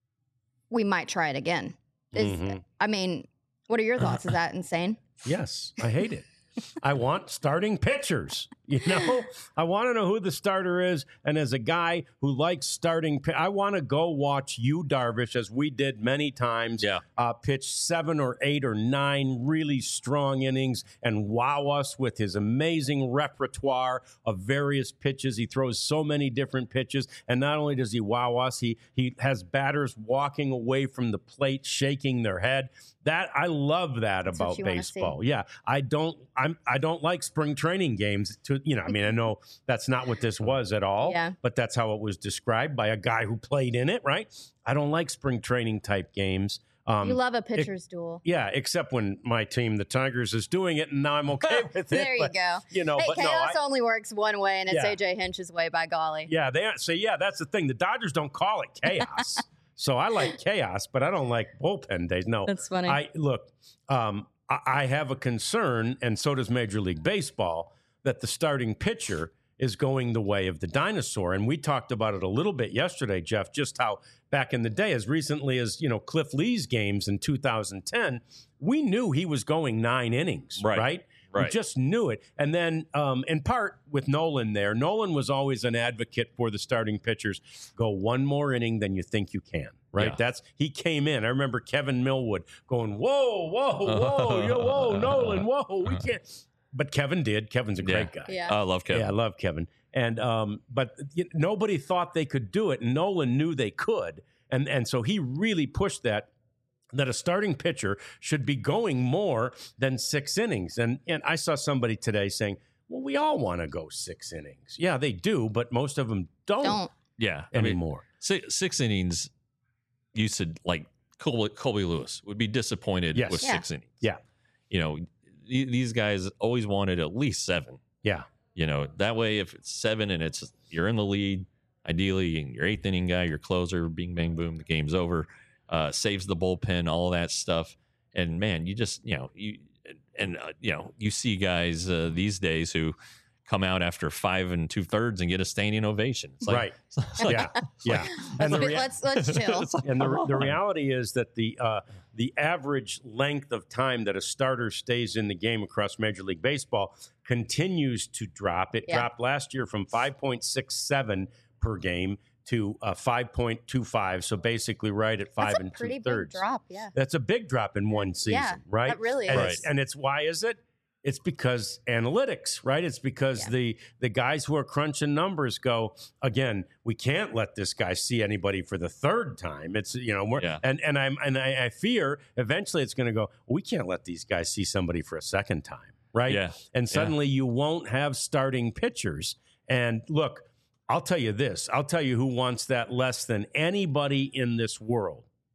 we might try it again. Is, Mhm. I mean, what are your thoughts? Is that insane? Yes, I hate it. I want starting pitchers. You know, I want to know who the starter is. And as a guy who likes starting, pi- I want to go watch Yu Darvish, as we did many times, Yeah. uh, pitch seven or eight or nine really strong innings and wow us with his amazing repertoire of various pitches. He throws so many different pitches. And not only does he wow us, he, he has batters walking away from the plate, shaking their head. That I love that That's what about you wanna see. baseball. Yeah, I don't. I'm. I don't like spring training games. To you know, I mean, I know that's not what this was at all. Yeah. But that's how it was described by a guy who played in it. Right. I don't like spring training type games. Um, You love a pitcher's duel. yeah, except when my team, the Tigers, is doing it, and now I'm okay with it. There you but, go. You know, Hey, but no, chaos I, only works one way, and it's Yeah. A J Hinch's way, by golly. yeah, they so yeah, that's the thing. The Dodgers don't call it chaos, so I like chaos, but I don't like bullpen days. No, That's funny. I look. Um, I, I have a concern, and so does Major League Baseball, that the starting pitcher is going the way of the dinosaur. And we talked about it a little bit yesterday, Jeff. Just how back in the day, as recently as you know, Cliff Lee's games in two thousand ten, we knew he was going nine innings, Right. right? We Right. just knew it. And then, um, in part with Nolan there, Nolan was always an advocate for the starting pitchers. Go one more inning than you think you can, right? Yeah. That's he came in. I remember Kevin Millwood going, whoa, whoa, whoa, yo, whoa, Nolan, whoa, we can't. But Kevin did. Kevin's a great guy. Yeah. I love Kevin. Yeah, I love Kevin. And um, but y- nobody thought they could do it. And Nolan knew they could. And and so he really pushed that. That a starting pitcher should be going more than six innings. And and I saw somebody today saying, well, we all want to go six innings. Yeah, they do, but most of them don't, Don't. Yeah. I mean, anymore. six, six innings, you said like Colby, Colby Lewis would be disappointed Yes. with Yeah. six innings. Yeah. You know, th- these guys always wanted at least seven. Yeah. You know, that way, if it's seven and it's you're in the lead, ideally, your eighth inning guy, your closer, bing, bang, boom, the game's over, uh, saves the bullpen, all of that stuff. And man, you just, you know, you, and, uh, you know, you see guys uh, these days who come out after five and two thirds and get a standing ovation. It's like, Right. it's like- Yeah. it's like- Yeah. Let's, And the be- rea- let's let's chill. it's like, And the, come the on. reality is that the uh, the average length of time that a starter stays in the game across Major League Baseball continues to drop. It Yeah. dropped last year from five point six seven per game to uh, five point two five. So basically, right at five That's a and pretty two big thirds. drop. Yeah. That's a big drop in one season, Yeah, right? that really and is. It's, and it's why is it? It's because analytics, right? It's because Yeah. the the guys who are crunching numbers go, again, we can't let this guy see anybody for the third time. It's you know, we're, Yeah. and and I'm and I, I fear eventually it's going to go. We can't let these guys see somebody for a second time, right? Yeah. And suddenly you won't have starting pitchers. And look, I'll tell you this. I'll tell you who wants that less than anybody in this world.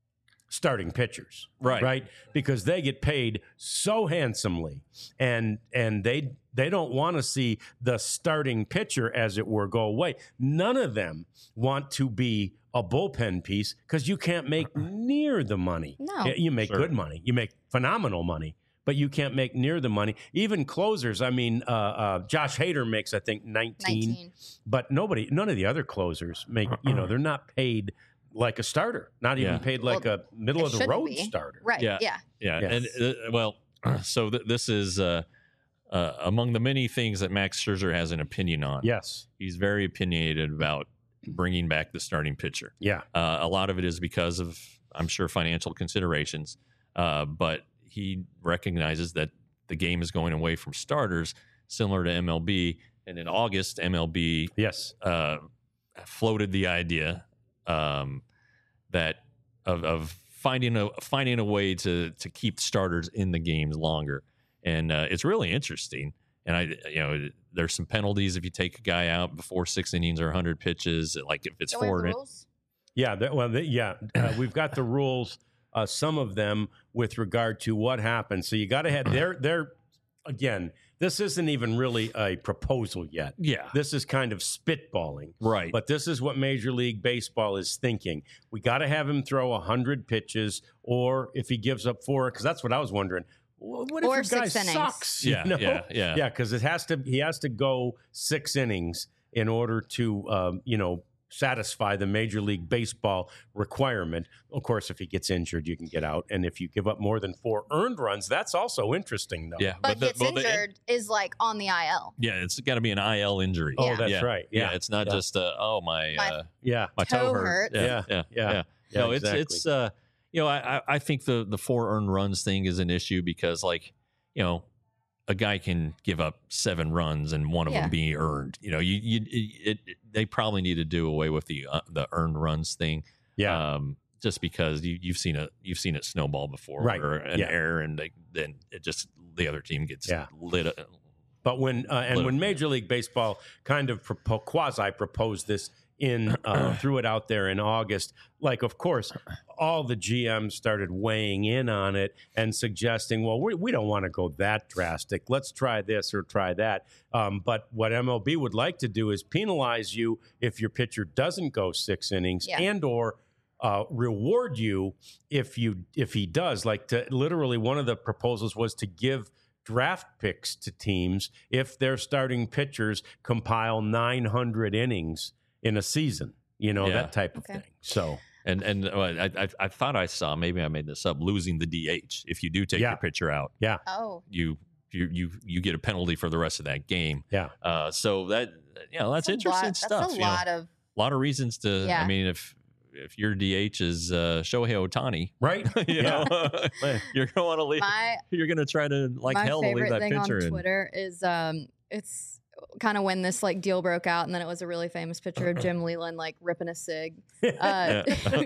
starting pitchers, Right. right? Because they get paid so handsomely, and and they they don't want to see the starting pitcher, as it were, go away. None of them want to be a bullpen piece because you can't make near the money. No. Y- you make Sure. good money, you make phenomenal money, but you can't make near the money. Even closers, I mean, uh, uh, Josh Hader makes I think nineteen, nineteen. but nobody, none of the other closers make. You know, they're not paid like a starter, not even Yeah. paid like Well, a middle it of the shouldn't road be. starter. Right. Yeah. Yeah. Yeah, Yeah. and uh, well, so th- this is uh, uh, among the many things that Max Scherzer has an opinion on. Yes. He's very opinionated about bringing back the starting pitcher. Yeah. Uh, a lot of it is because of, I'm sure, financial considerations, uh, but he recognizes that the game is going away from starters, similar to M L B. And in August, M L B Yes. uh, floated the idea um, that of, of finding a finding a way to to keep starters in the games longer, and uh, it's really interesting. And I, you know, there's some penalties if you take a guy out before six innings or one hundred pitches. Like if it's Don't we have four, the in- rules? Yeah. That, well, the, yeah. Uh, we've got the rules. Uh, some of them with regard to what happens. So you got to have they're they're again. This isn't even really a proposal yet. yeah, This is kind of spitballing. right. But this is what Major League Baseball is thinking. We got to have him throw one hundred pitches, or if he gives up four, because that's what I was wondering. Well, what if Or your guy six innings. sucks? you yeah, know? yeah, yeah, Yeah, because it has to. He has to go six innings in order to, um, you know, satisfy the Major League Baseball requirement. Of course, if he gets injured, you can get out, and if you give up more than four earned runs, that's also interesting, though. yeah. But, the- gets well, the- injured is like on the I L. yeah, it's got to be an I L injury. Oh, Yeah. that's yeah. right. Yeah, Yeah, it's not yeah. just uh, oh my My uh, yeah, my toe, toe hurt. hurts. Yeah, Yeah, yeah, yeah. yeah. yeah. no, exactly. it's it's uh, you know, I I- I think the the four earned runs thing is an issue because like you know. A guy can give up seven runs and one of Yeah. them be earned. You know, you you it, it, they probably need to do away with the uh, the earned runs thing. yeah. Um, just because you, you've seen it, you've seen it snowball before, Right. Or an Yeah. error, and they, then it just the other team gets Yeah. lit. Up. But when uh, and Little- when Major League Baseball kind of propo- quasi proposed this in uh, threw it out there in August, like of course all the G Ms started weighing in on it and suggesting, well, we, we don't want to go that drastic. Let's try this or try that. Um, but what M L B would like to do is penalize you if your pitcher doesn't go six innings Yeah. and or uh, reward you if you if he does. Like to literally one of the proposals was to give draft picks to teams if their starting pitchers compile nine hundred innings in a season, you know, Yeah. that type of Okay. thing. So, And and uh, I, I I thought I saw, maybe I made this up, losing the D H. If you do take Yeah. your pitcher out, Oh. you you you you get a penalty for the rest of that game. yeah. Uh, so that you know that's, a interesting lot, stuff. That's a you know. lot of. A lot of reasons to. Yeah. I mean, if if your D H is uh, Shohei Ohtani, Right? you Yeah. know, you're gonna want to leave. My You're gonna try to like my hell to leave favorite that thing on pitcher in. Twitter is um it's kind of when this like deal broke out, and then it was a really famous picture of Jim Leland like ripping a cig. Uh,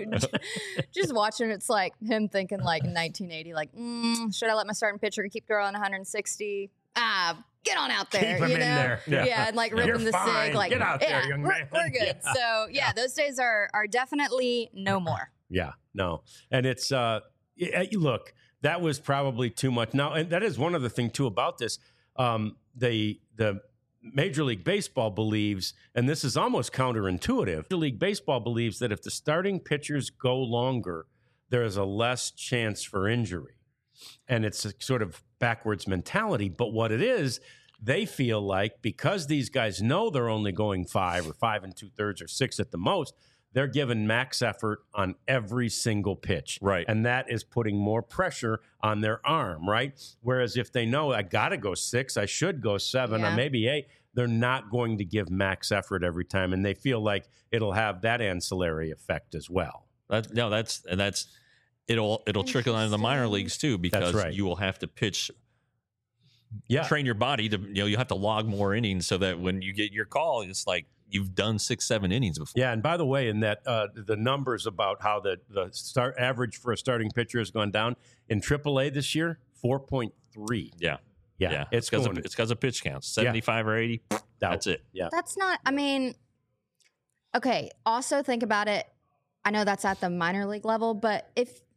just watching, it's like him thinking like nineteen eighty, like mm, should I let my starting pitcher keep throwing one hundred sixty? Ah, get on out there, Keep him you in know? there. Yeah. Yeah. and like You're ripping the fine. cig, like Get out there, yeah, young we're, man. we're good. Yeah. So yeah, those days are are definitely no more. Yeah, no. And it's, uh, y- y- look, that was probably too much. Now, and that is one other thing, too, about this. Um, the, the Major League Baseball believes, and this is almost counterintuitive, Major League Baseball believes that if the starting pitchers go longer, there is a less chance for injury. And it's a sort of backwards mentality. But what it is, they feel like because these guys know they're only going five or five and two thirds or six at the most, they're given max effort on every single pitch. Right. And that is putting more pressure on their arm, right? Whereas if they know I got to go six, I should go seven, Yeah. or maybe eight, they're not going to give max effort every time. And they feel like it'll have that ancillary effect as well. That, no, that's and that's it'll it'll trickle down to the minor Interesting. leagues too because right. you will have to pitch, Yeah. train your body to you know you have to log more innings so that when you get your call, it's like you've done six seven innings before. Yeah, and by the way, in that uh, the numbers about how the the start average for a starting pitcher has gone down in triple A this year, four point three. Yeah, Yeah, yeah. it's because going of, it's because of pitch counts, seventy five or eighty. down. That's it. Yeah, That's not, I mean, okay. Also think about it. I know that's at the minor league level, but if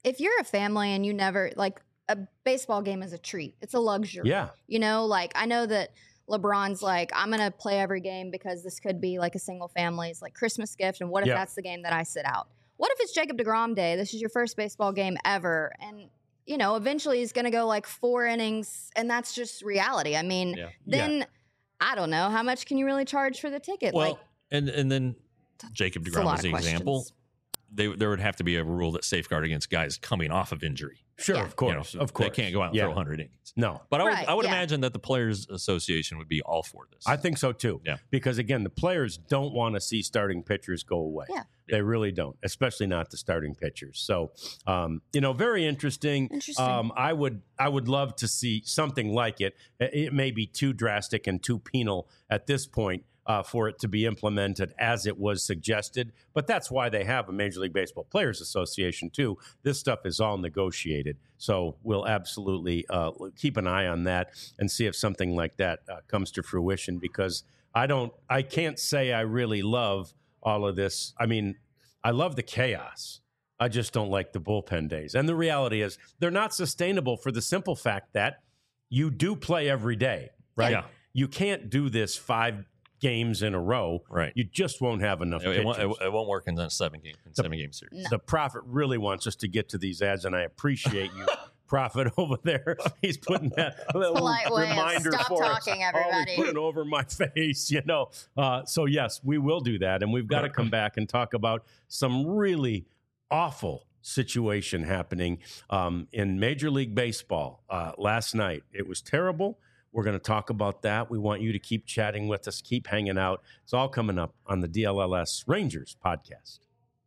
if you're a family and you never like a baseball game is a treat. It's a luxury. Yeah. You know, like I know that LeBron's like, I'm going to play every game because this could be like a single family's like Christmas gift. And what if Yeah. that's the game that I sit out? What if it's Jacob deGrom Day? This is your first baseball game ever. And, you know, eventually he's going to go like four innings and that's just reality. I mean, Yeah. then I don't know. How much can you really charge for the ticket? Well, like, and and then Jacob it's a deGrom lot is the of example. questions. They, there would have to be a rule that safeguard against guys coming off of injury. Sure, Yeah. of You course, know, of course. They can't go out and Yeah. throw one hundred innings. No. But I would, Right, I would yeah. imagine that the Players Association would be all for this. I think so too. Yeah. Because again, the players don't want to see starting pitchers go away. Yeah. They really don't, especially not the starting pitchers. So, um, you know, very interesting. Interesting. Um, I would, I would love to see something like it. It may be too drastic and too penal at this point uh, for it to be implemented as it was suggested. But that's why they have a Major League Baseball Players Association too. This stuff is all negotiated. So we'll absolutely uh, keep an eye on that and see if something like that uh, comes to fruition. Because I don't, I can't say I really love all of this. I mean, I love the chaos. I just don't like the bullpen days. And the reality is they're not sustainable for the simple fact that you do play every day, right? Yeah. You can't do this five games in a row. Right. You just won't have enough It, it, won't, pitchers. it, it won't work in that seven game in seven game series. No. The Prophet really wants us to get to these ads, and I appreciate you, Prophet, over there. He's putting that little Polite way of reminder stop for us. talking, Always everybody. putting over my face, you know. Uh, so yes, we will do that, and we've got to come back and talk about some really awful situation happening um, in Major League Baseball uh, last night. It was terrible. We're going to talk about that. We want you to keep chatting with us, keep hanging out. It's all coming up on the D L L S Rangers podcast.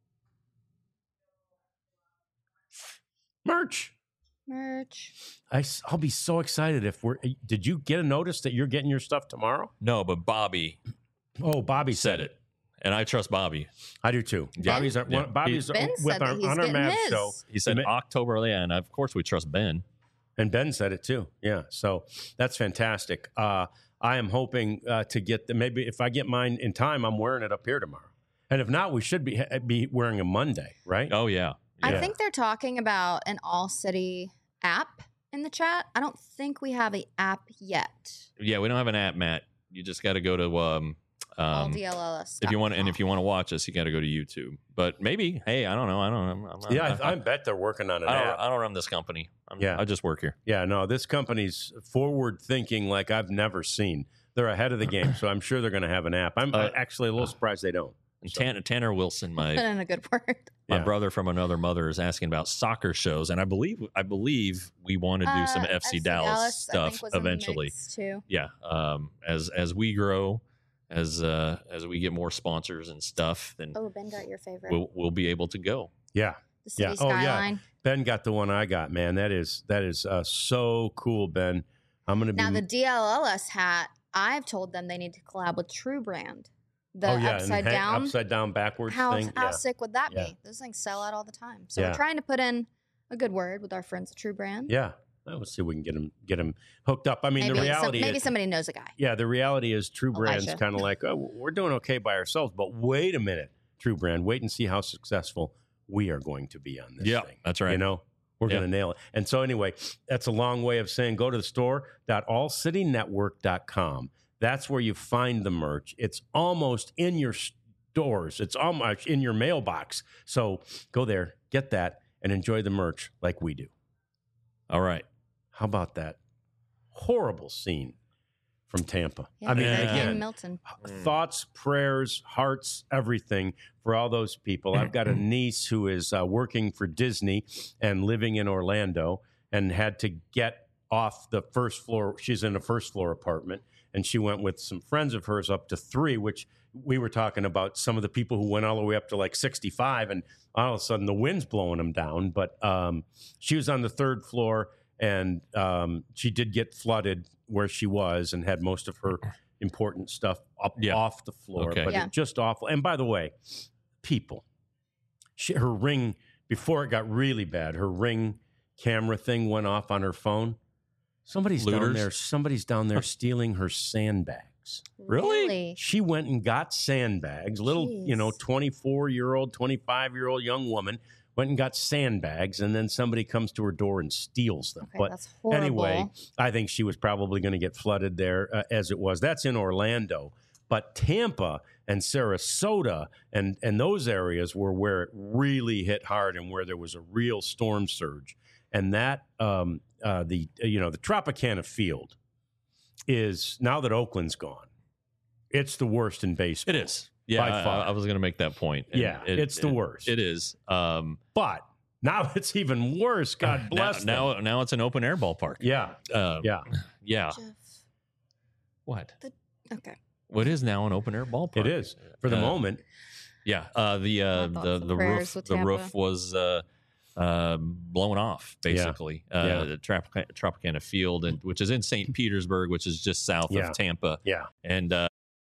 Merch. Merch. I, will be so excited if we're. Did you get a notice that you're getting your stuff tomorrow? No, but Bobby Oh, Bobby said it, and I trust Bobby. I do too. Yeah. Bobby's, our, Yeah. one, Bobby's Ben with said our, that he's on our getting Mavs his. show. He said Ma- October, yeah, and of course we trust Ben. And Ben said it too. Yeah. So that's fantastic. Uh, I am hoping uh, to get the, maybe if I get mine in time, I'm wearing it up here tomorrow. And if not, we should be be wearing a Monday, right? Oh yeah, I Yeah. think they're talking about an all city app in the chat. I don't think we have an app yet. yeah. We don't have an app, Matt. You just got to go to um, all um D L L S. if you want, and if you want to watch us, you got to go to YouTube. But maybe, hey, I don't know. I don't. I'm, I'm not, Yeah, I, I, I bet they're working on an I don't. app. I don't run this company. I'm, Yeah. I just work here. Yeah, no, this company's forward thinking like I've never seen. They're ahead of the game, so I'm sure they're going to have an app. I'm Uh, actually a little surprised they don't. And So- Tanner, Tanner Wilson, put my in a good word. my Yeah. brother from another mother, is asking about soccer shows, and I believe I believe we want to do some Uh, F C F C Dallas, I stuff think, was in the eventually. mix, too. Yeah, um, as as we grow, as uh, as we get more sponsors and stuff, then Oh, Ben got your favorite. we'll we'll be able to go. Yeah, the city yeah. Oh, yeah. skyline. Ben got the one I got, man. That is that is uh, so cool, Ben. I'm going to be Now, the D L L S hat, I've told them they need to collab with True Brand. The oh yeah, and upside hang- down. upside down backwards how thing. how Yeah. sick would that Yeah. be? Those things sell out all the time. So Yeah. we're trying to put in a good word with our friends at True Brand. Yeah, Well, let's see if we can get him get him hooked up. I mean, maybe the some- reality maybe is, somebody knows a guy. yeah, the reality is True Brand's Elijah. kind of like, oh, we're doing okay by ourselves, but wait a minute, True Brand, wait and see how successful we are going to be on this Yeah, thing. that's right. You know, we're Yeah. going to nail it. And so anyway, that's a long way of saying go to the store dot all city network dot com. That's where you find the merch. It's almost in your stores. It's almost in your mailbox. So go there, get that, and enjoy the merch like we do. All right. How about that horrible scene from Tampa? Yeah, I mean, Yeah. Hurricane again, Milton. Mm. thoughts, prayers, hearts, everything for all those people. I've got a niece who is uh, working for Disney and living in Orlando and had to get off the first floor. She's in a first floor apartment, and she went with some friends of hers up to three, which we were talking about some of the people who went all the way up to like sixty-five, and all of a sudden the wind's blowing them down. But um, she was on the third floor, and um, she did get flooded where she was and had most of her important stuff up Yeah. off the floor, Okay. but Yeah. it just awful. And by the way, people, she, her Ring, before it got really bad, her Ring camera thing went off on her phone. Somebody's down Looters? there. Somebody's down there stealing her sandbags. Really? She went and got sandbags. Little, you know, Jeez. twenty-four year old, twenty-five year old young woman went and got sandbags, and then somebody comes to her door and steals them. Okay, but that's horrible. anyway, I think she was probably going to get flooded there uh, as it was. That's in Orlando. But Tampa and Sarasota and, and those areas were where it really hit hard and where there was a real storm surge. And that, um, uh, the you know, the Tropicana Field is, now that Oakland's gone, it's the worst in baseball. It is. Yeah, by far. I, I was going to make that point. And Yeah, it, it's the it- worst. It is. Um, But now it's even worse. God bless now, them. now, now it's an open air ballpark. Yeah, Uh, yeah. yeah. Jeff. What? Okay. What is now an open air ballpark? It is for the Uh, moment. Yeah. Uh, the uh, My thoughts the and the prayers roof with the roof Tampa. was uh, uh, blown off basically. Yeah. Uh, the Trop- Tropicana Field, and which is in Saint Petersburg, which is just south Yeah. of Tampa, Yeah, and. Uh,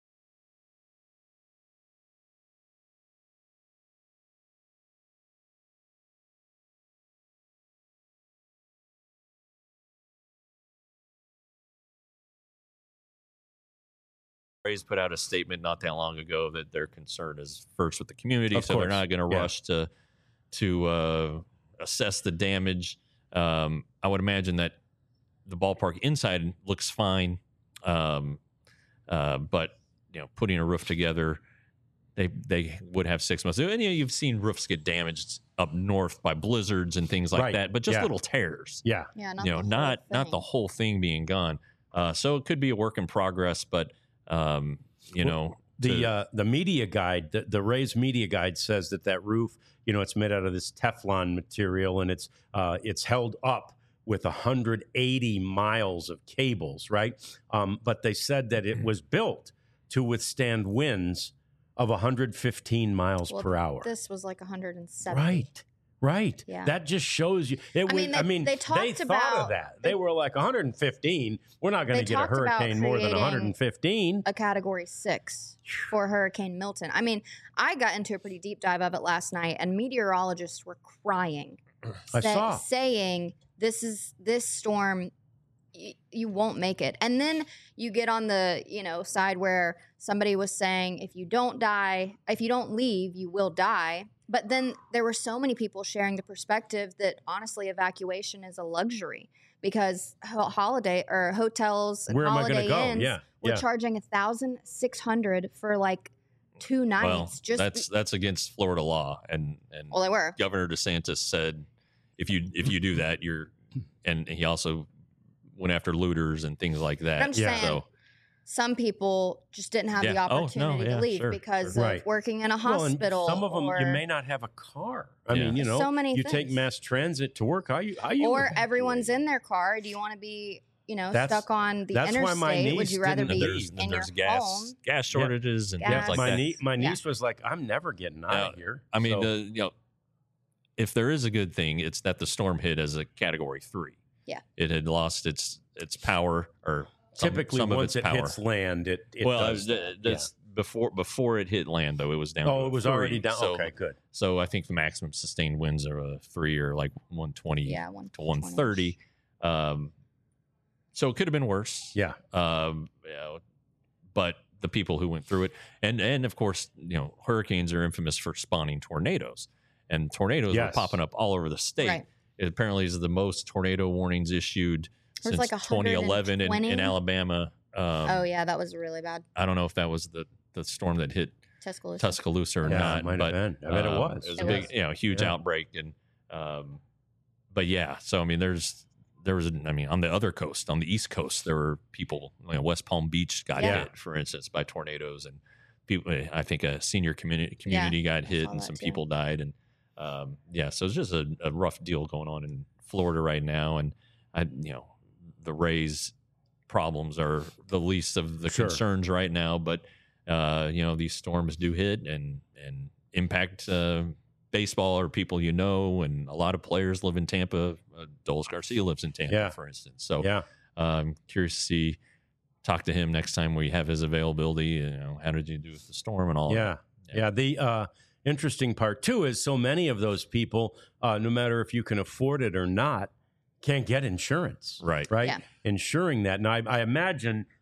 Rays put out a statement not that long ago that their concern is first with the community, Of so they're course. not going to Yeah. rush to to uh, assess the damage. Um, I would imagine that the ballpark inside looks fine, um, uh, but you know, putting a roof together, they they would have six months. And you know, you've seen roofs get damaged up north by blizzards and things like Right. that, but just Yeah. little tears. yeah. Yeah, not you know, the whole not not thing. the whole thing being gone. Uh, so it could be a work in progress, but um, you Well, know, The to- uh, the media guide, the, the Rays media guide says that that roof, you know, it's made out of this Teflon material, and it's uh, it's held up with one hundred eighty miles of cables, right? Um, but they said that it was built to withstand winds of one hundred fifteen miles Well, per hour. This was like one hundred seventy. Right. Right. Yeah. That just shows you. It I was, mean, I they- mean, they talked thought about- of that. They, they- were like one hundred fifteen. We're not going They to get a talked about hurricane more than creating- one hundred fifteen. A category six for Hurricane Milton. I mean, I got into a pretty deep dive of it last night, and meteorologists were crying, I sa- saw. saying this is this storm. y- You won't make it. And then you get on the, you know, side where somebody was saying if you don't die, if you don't leave, you will die. But then there were so many people sharing the perspective that honestly evacuation is a luxury because ho- holiday or hotels and Where am I holiday going to go? inns Yeah. were Yeah. charging a thousand six hundred for like two nights. well, just that's that's against Florida law, and and well, they were. Governor DeSantis said if you if you do that, you're, and he also went after looters and things like that. I'm just Yeah. saying, So some people just didn't have the Yeah. Oh, no, opportunity yeah, to leave sure, because sure. of Right. working in a Well, and hospital. some of them, or, you may not have a car. I Yeah. mean, you know, So many you take things. mass transit to work. How you? How you? or evacuate? everyone's in their car. Do you want to be, you know, That's- stuck on the that's why interstate? my Would niece you rather didn't and be there's in and your there's gas home? gas shortages and Gas. things like my that. nie- my Yeah. niece was like, "I'm never getting out Now, of here." I mean, So- the, you know, if there is a good thing, it's that the storm hit as a category three. Yeah. It had lost its its power, or some, typically, some of once its it power. hits land, it, it well, does. th- that. that's before before it hit land, though. It was down. Yeah. to Oh, a it was three. already down. So, okay, good. so I think the maximum sustained winds are a three or like one twenty Yeah, one to one thirty. Um, so it could have been worse. Yeah. Um, you know, but the people who went through it, and and of course, you know, hurricanes are infamous for spawning tornadoes, and tornadoes Yes. were popping up all over the state. Right. It apparently is the most tornado warnings issued There's since like twenty eleven in, in one hundred twenty. Alabama. Um, Oh yeah, that was really bad. I don't know if that was the the storm that hit Tuscaloosa. Tuscaloosa or Yeah, not, it might but have been. I bet it um, was. It was It a big, was. you know, huge Yeah. outbreak, and um, but yeah. So I mean, there's there was, I mean, on the other coast, on the East Coast, there were people. You know, West Palm Beach got Yeah. hit, for instance, by tornadoes, and people. I think a senior community community got hit, saw and that some too. people died, and um, yeah. So it's just a, a rough deal going on in Florida right now, and I, you know, the Rays' problems are the least of the Sure. concerns right now, but uh, you know, these storms do hit and and impact uh, baseball or people you know, and a lot of players live in Tampa. Uh, Dolis Garcia lives in Tampa, Yeah. for instance. So Yeah. uh, I'm curious to see, talk to him next time we have his availability. You know, how did you do with the storm and all? Yeah. Yeah. Yeah. The uh, interesting part, too, is so many of those people, uh, no matter if you can afford it or not, can't get insurance. Right. Right. Yeah. Insuring that. Now, I, I imagine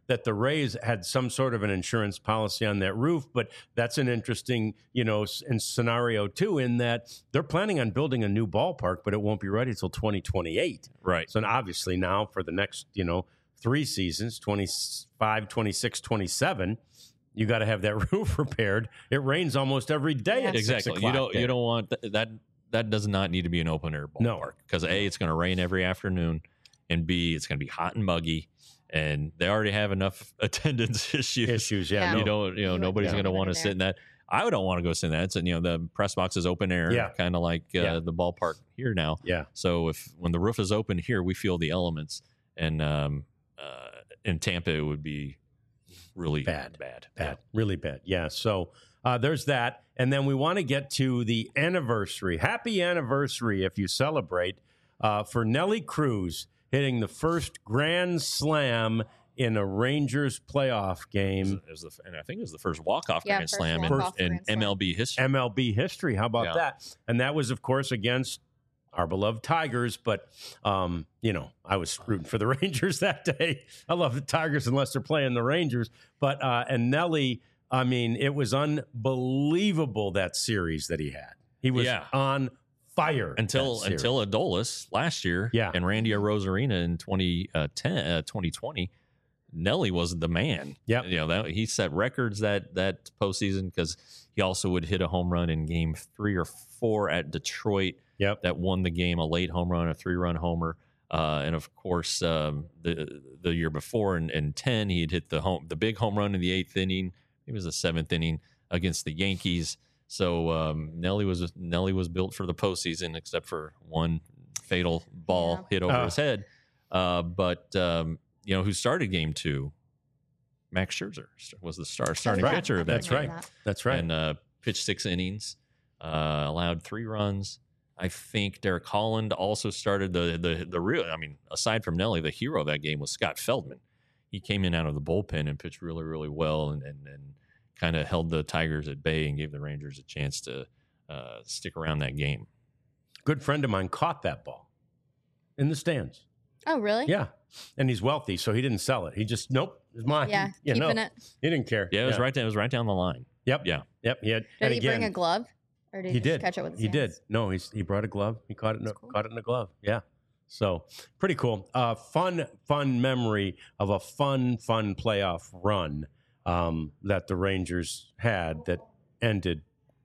that the Rays had some sort of an insurance policy on that roof, but that's an interesting, you know, s- in scenario too, in that they're planning on building a new ballpark, but it won't be ready until twenty twenty-eight. Right. So obviously now for the next, you know, three seasons, twenty-five, twenty-six, twenty-seven, you got to have that roof repaired. It rains almost every day Yeah. at six Exactly. You o'clock don't there. you don't want th- that. That does not need to be an open air No. ballpark because A, it's going to rain every afternoon, and B, it's going to be hot and muggy, and they already have enough attendance issues. issues. Yeah, Yeah. no. You don't, you know, You nobody's wouldn't going to go want to there. sit in that. I don't want to go sit in that. It's, you know, the press box is open air, Yeah. kind of like uh, Yeah. the ballpark here now. Yeah. So if when the roof is open here, we feel the elements, and um, uh, in Tampa it would be really Bad. bad, Bad, really bad. Yeah. So uh, there's that. And then we want to get to the anniversary. Happy anniversary if you celebrate uh, for Nelly Cruz hitting the first grand slam in a Rangers playoff Yeah. It was, game. it was the, and I think it was the first walk off Yeah, grand first slam in, walk-off in grand slam. M L B history. M L B history. How about Yeah. that? And that was, of course, against our beloved Tigers. But, um, you know, I was rooting for the Rangers that day. I love the Tigers unless they're playing the Rangers. But, uh, and Nelly, I mean, it was unbelievable that series that he had. He was Yeah. on fire until that series. until Adolis last year, Yeah. and Randy Arozarena in twenty ten, uh, twenty twenty. Nelly was the man. Yep. you know that he set records that that postseason because he also would hit a home run in Game Three or Four at Detroit. Yep. That won the game, a late home run, a three-run homer, uh, and of course um, the the year before in, in ten he had hit the home the big home run in the eighth inning. It was the seventh inning against the Yankees. So um, Nelly was Nelly was built for the postseason, except for one fatal ball Yeah. hit over Uh. his head. Uh, but um, you know who started Game Two? Max Scherzer was the star starting right. pitcher of that That's game, right. That's right. and uh, pitched six innings, uh, allowed three runs. I think Derek Holland also started the the the real. I mean, aside from Nelly, the hero of that game was Scott Feldman. He came in out of the bullpen and pitched really, really well, and and, and kind of held the Tigers at bay and gave the Rangers a chance to uh, stick around that game. Good friend of mine caught that ball in the stands. Oh, really? Yeah. And he's wealthy, so he didn't sell it. He just, nope, it's mine. Yeah, you know, keeping it. he didn't care. Yeah, it was right. Down, it was right down the line. Yep. Yeah. Yep. He had. Did and he again, bring a glove? Or did he, he just did. catch it with his He did. hands? No, he's he brought a glove. He caught it. In a, That's cool. Caught it in a glove. Yeah. So pretty cool. Uh, fun, fun memory of a fun, fun playoff run um, that the Rangers had that ended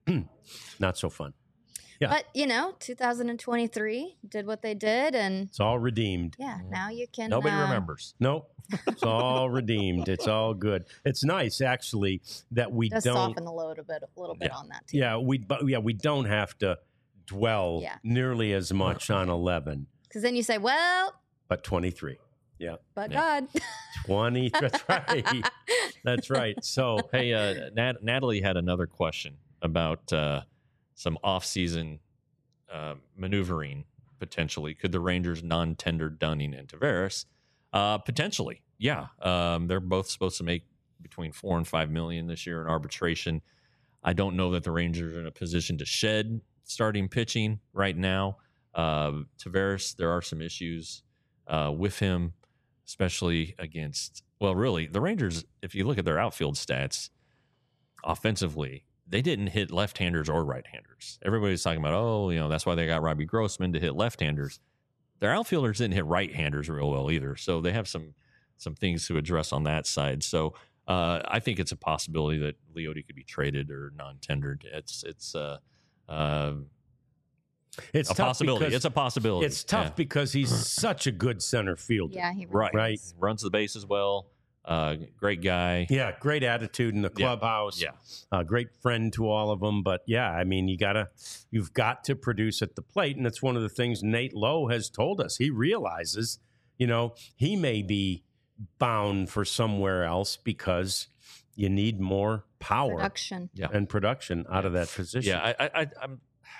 not so fun. Yeah. But, you know, two thousand twenty-three did what they did. And It's all redeemed. yeah, now you can. Nobody uh, remembers. Nope. It's all redeemed. It's all good. It's nice actually that we Does don't. soften the load a bit, a little bit Yeah. on that, too. Yeah, we but yeah we don't have to dwell Yeah. nearly as much on eleven, Because then you say, well, but twenty-three. Yeah, but Yeah. God. twenty. That's right. That's right. So Hey, uh, Nat- Natalie had another question about uh, some off-season uh, maneuvering potentially. Could the Rangers non-tender Dunning and Tavares? Uh, potentially, yeah. Um, they're both supposed to make between four and five million this year in arbitration. I don't know that the Rangers are in a position to shed starting pitching right now. Uh, Tavares, there are some issues uh, with him, especially against. Well, really, the Rangers. If you look at their outfield stats, offensively, they didn't hit left-handers or right-handers. Everybody's talking about, oh, you know, that's why they got Robbie Grossman to hit left-handers. Their outfielders didn't hit right-handers real well either, so they have some some things to address on that side. So uh, I think it's a possibility that Leote could be traded or non-tendered. It's it's uh, uh, it's a tough possibility. because It's a possibility. it's tough Yeah. because he's such a good center fielder. Yeah, he Right. Right. Runs the bases well. Uh, great guy. Yeah, great attitude in the Yeah. clubhouse. Yeah. A great friend to all of them. But yeah, I mean, you gotta, you've got to produce at the plate, and it's one of the things Nate Lowe has told us. He realizes, you know, he may be bound for somewhere else because you need more power Production. Yeah. and production out of that position. Yeah, I, I, I, I'm.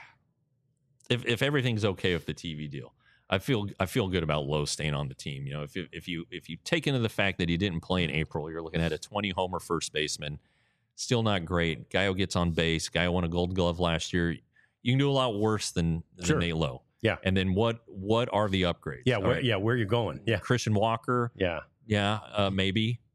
If if everything's okay with the T V deal, I feel I feel good about Lowe staying on the team. You know, if you, if you if you take into the fact that he didn't play in April, you're looking at a twenty homer first baseman, still not great. Guy who gets on base, guy who won a Gold Glove last year. You can do a lot worse than, than Sure. Nate Lowe. Yeah. And then what what are the upgrades? yeah, All where, right. yeah, where you going? Yeah, Christian Walker, yeah. yeah, uh, maybe.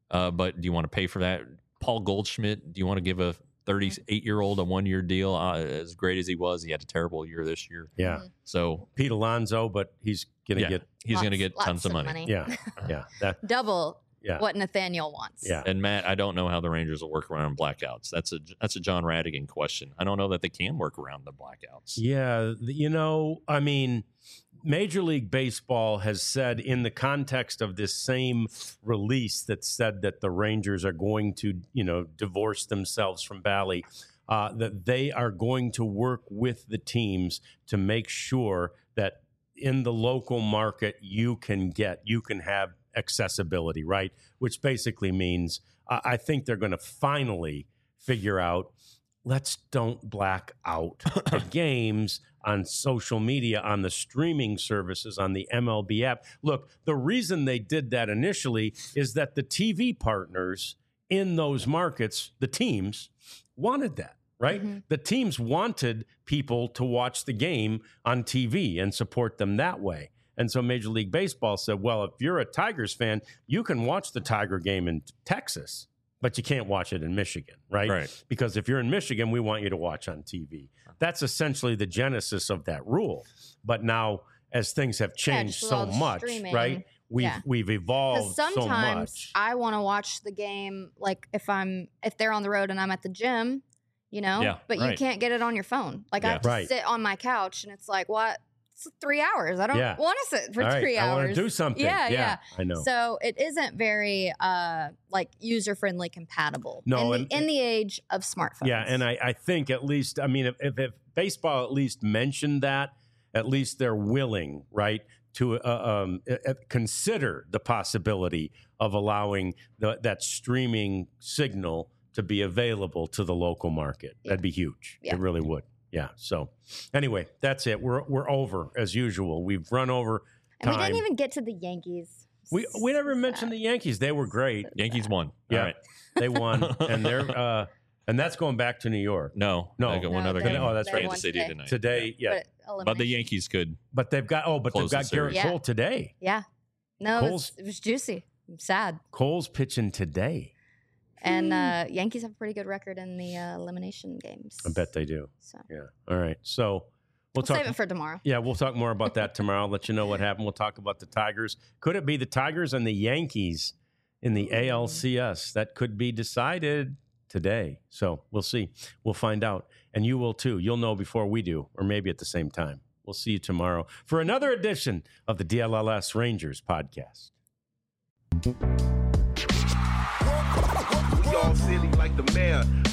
Uh, but do you want to pay for that? Paul Goldschmidt, do you want to give a thirty-eight-year-old a one-year deal? Uh, as great as he was, he had a terrible year this year. Yeah. Mhm. So Pete Alonso, but he's going to yeah, get, he's going to Lots- get tons lots of money. yeah, yeah, that, Double yeah, what Nathaniel wants. yeah. And Matt, I don't know how the Rangers will work around blackouts. That's a that's a John Radigan question. I don't know that they can work around the blackouts. Yeah, th- you know, I mean, Major League Baseball has said in the context of this same release that said that the Rangers are going to, you know, divorce themselves from Bally, uh, that they are going to work with the teams to make sure that in the local market you can get, you can have accessibility, right? Which basically means uh, I think they're going to finally figure out, let's don't black out the games on social media, on the streaming services, on the M L B app. Look, the reason they did that initially is that the T V partners in those markets, the teams, wanted that, right? Mhm. The teams wanted people to watch the game on T V and support them that way. And so Major League Baseball said, well, if you're a Tigers fan, you can watch the Tiger game in Texas, but you can't watch it in Michigan, right? Right. Because if you're in Michigan, we want you to watch on T V. That's essentially the genesis of that rule. But now, as things have changed just so with all the much, streaming. right? We've Yeah. we've Because evolved so sometimes much. I want to watch the game, like if I'm if they're on the road and I'm at the gym, you know. Yeah, but you right. can't get it on your phone. Like I Yeah. have to Right. sit on my couch, and it's like, what? It's three hours. I don't Yeah. want to sit for All right, three I hours. want to do something. Yeah, yeah. I know. So it isn't very uh like user friendly compatible. No, in and- the, in the age of smartphones. Yeah, and I, I think at least, I mean, if, if, if baseball at least mentioned that, at least they're willing, right, to uh, um, uh, consider the possibility of allowing the, that streaming signal to be available to the local market. Yeah. That'd be huge. Yeah. It really would. Yeah. So anyway, that's it. We're we're over as usual. We've run over and time. we didn't even get to the Yankees. we we never So mentioned sad. the Yankees. They were great. Yankees won. Yeah. All right. They won, and they're uh, and that's going back to New York No, No. they got one No, other they- game. Oh, that's they right. Kansas won City today. tonight. today. Yeah, But, But the elimination. Yankees could. but they've got oh, but Close they've the got Garrett series. Yeah. Cole today. Yeah. No, it was, Cole's- it was juicy. I'm sad. Cole's pitching today. And uh, Yankees have a pretty good record in the uh, elimination games. I bet they do. So Yeah. All right. So we'll we'll talk. save it for tomorrow. yeah, we'll talk more about that tomorrow. I'll let you know what happened. We'll talk about the Tigers. Could it be the Tigers and the Yankees in the A L C S? That could be decided today. So we'll see. We'll find out. And you will too. You'll know before we do, or maybe at the same time. We'll see you tomorrow for another edition of the D L L S Rangers podcast. We all silly like the mayor.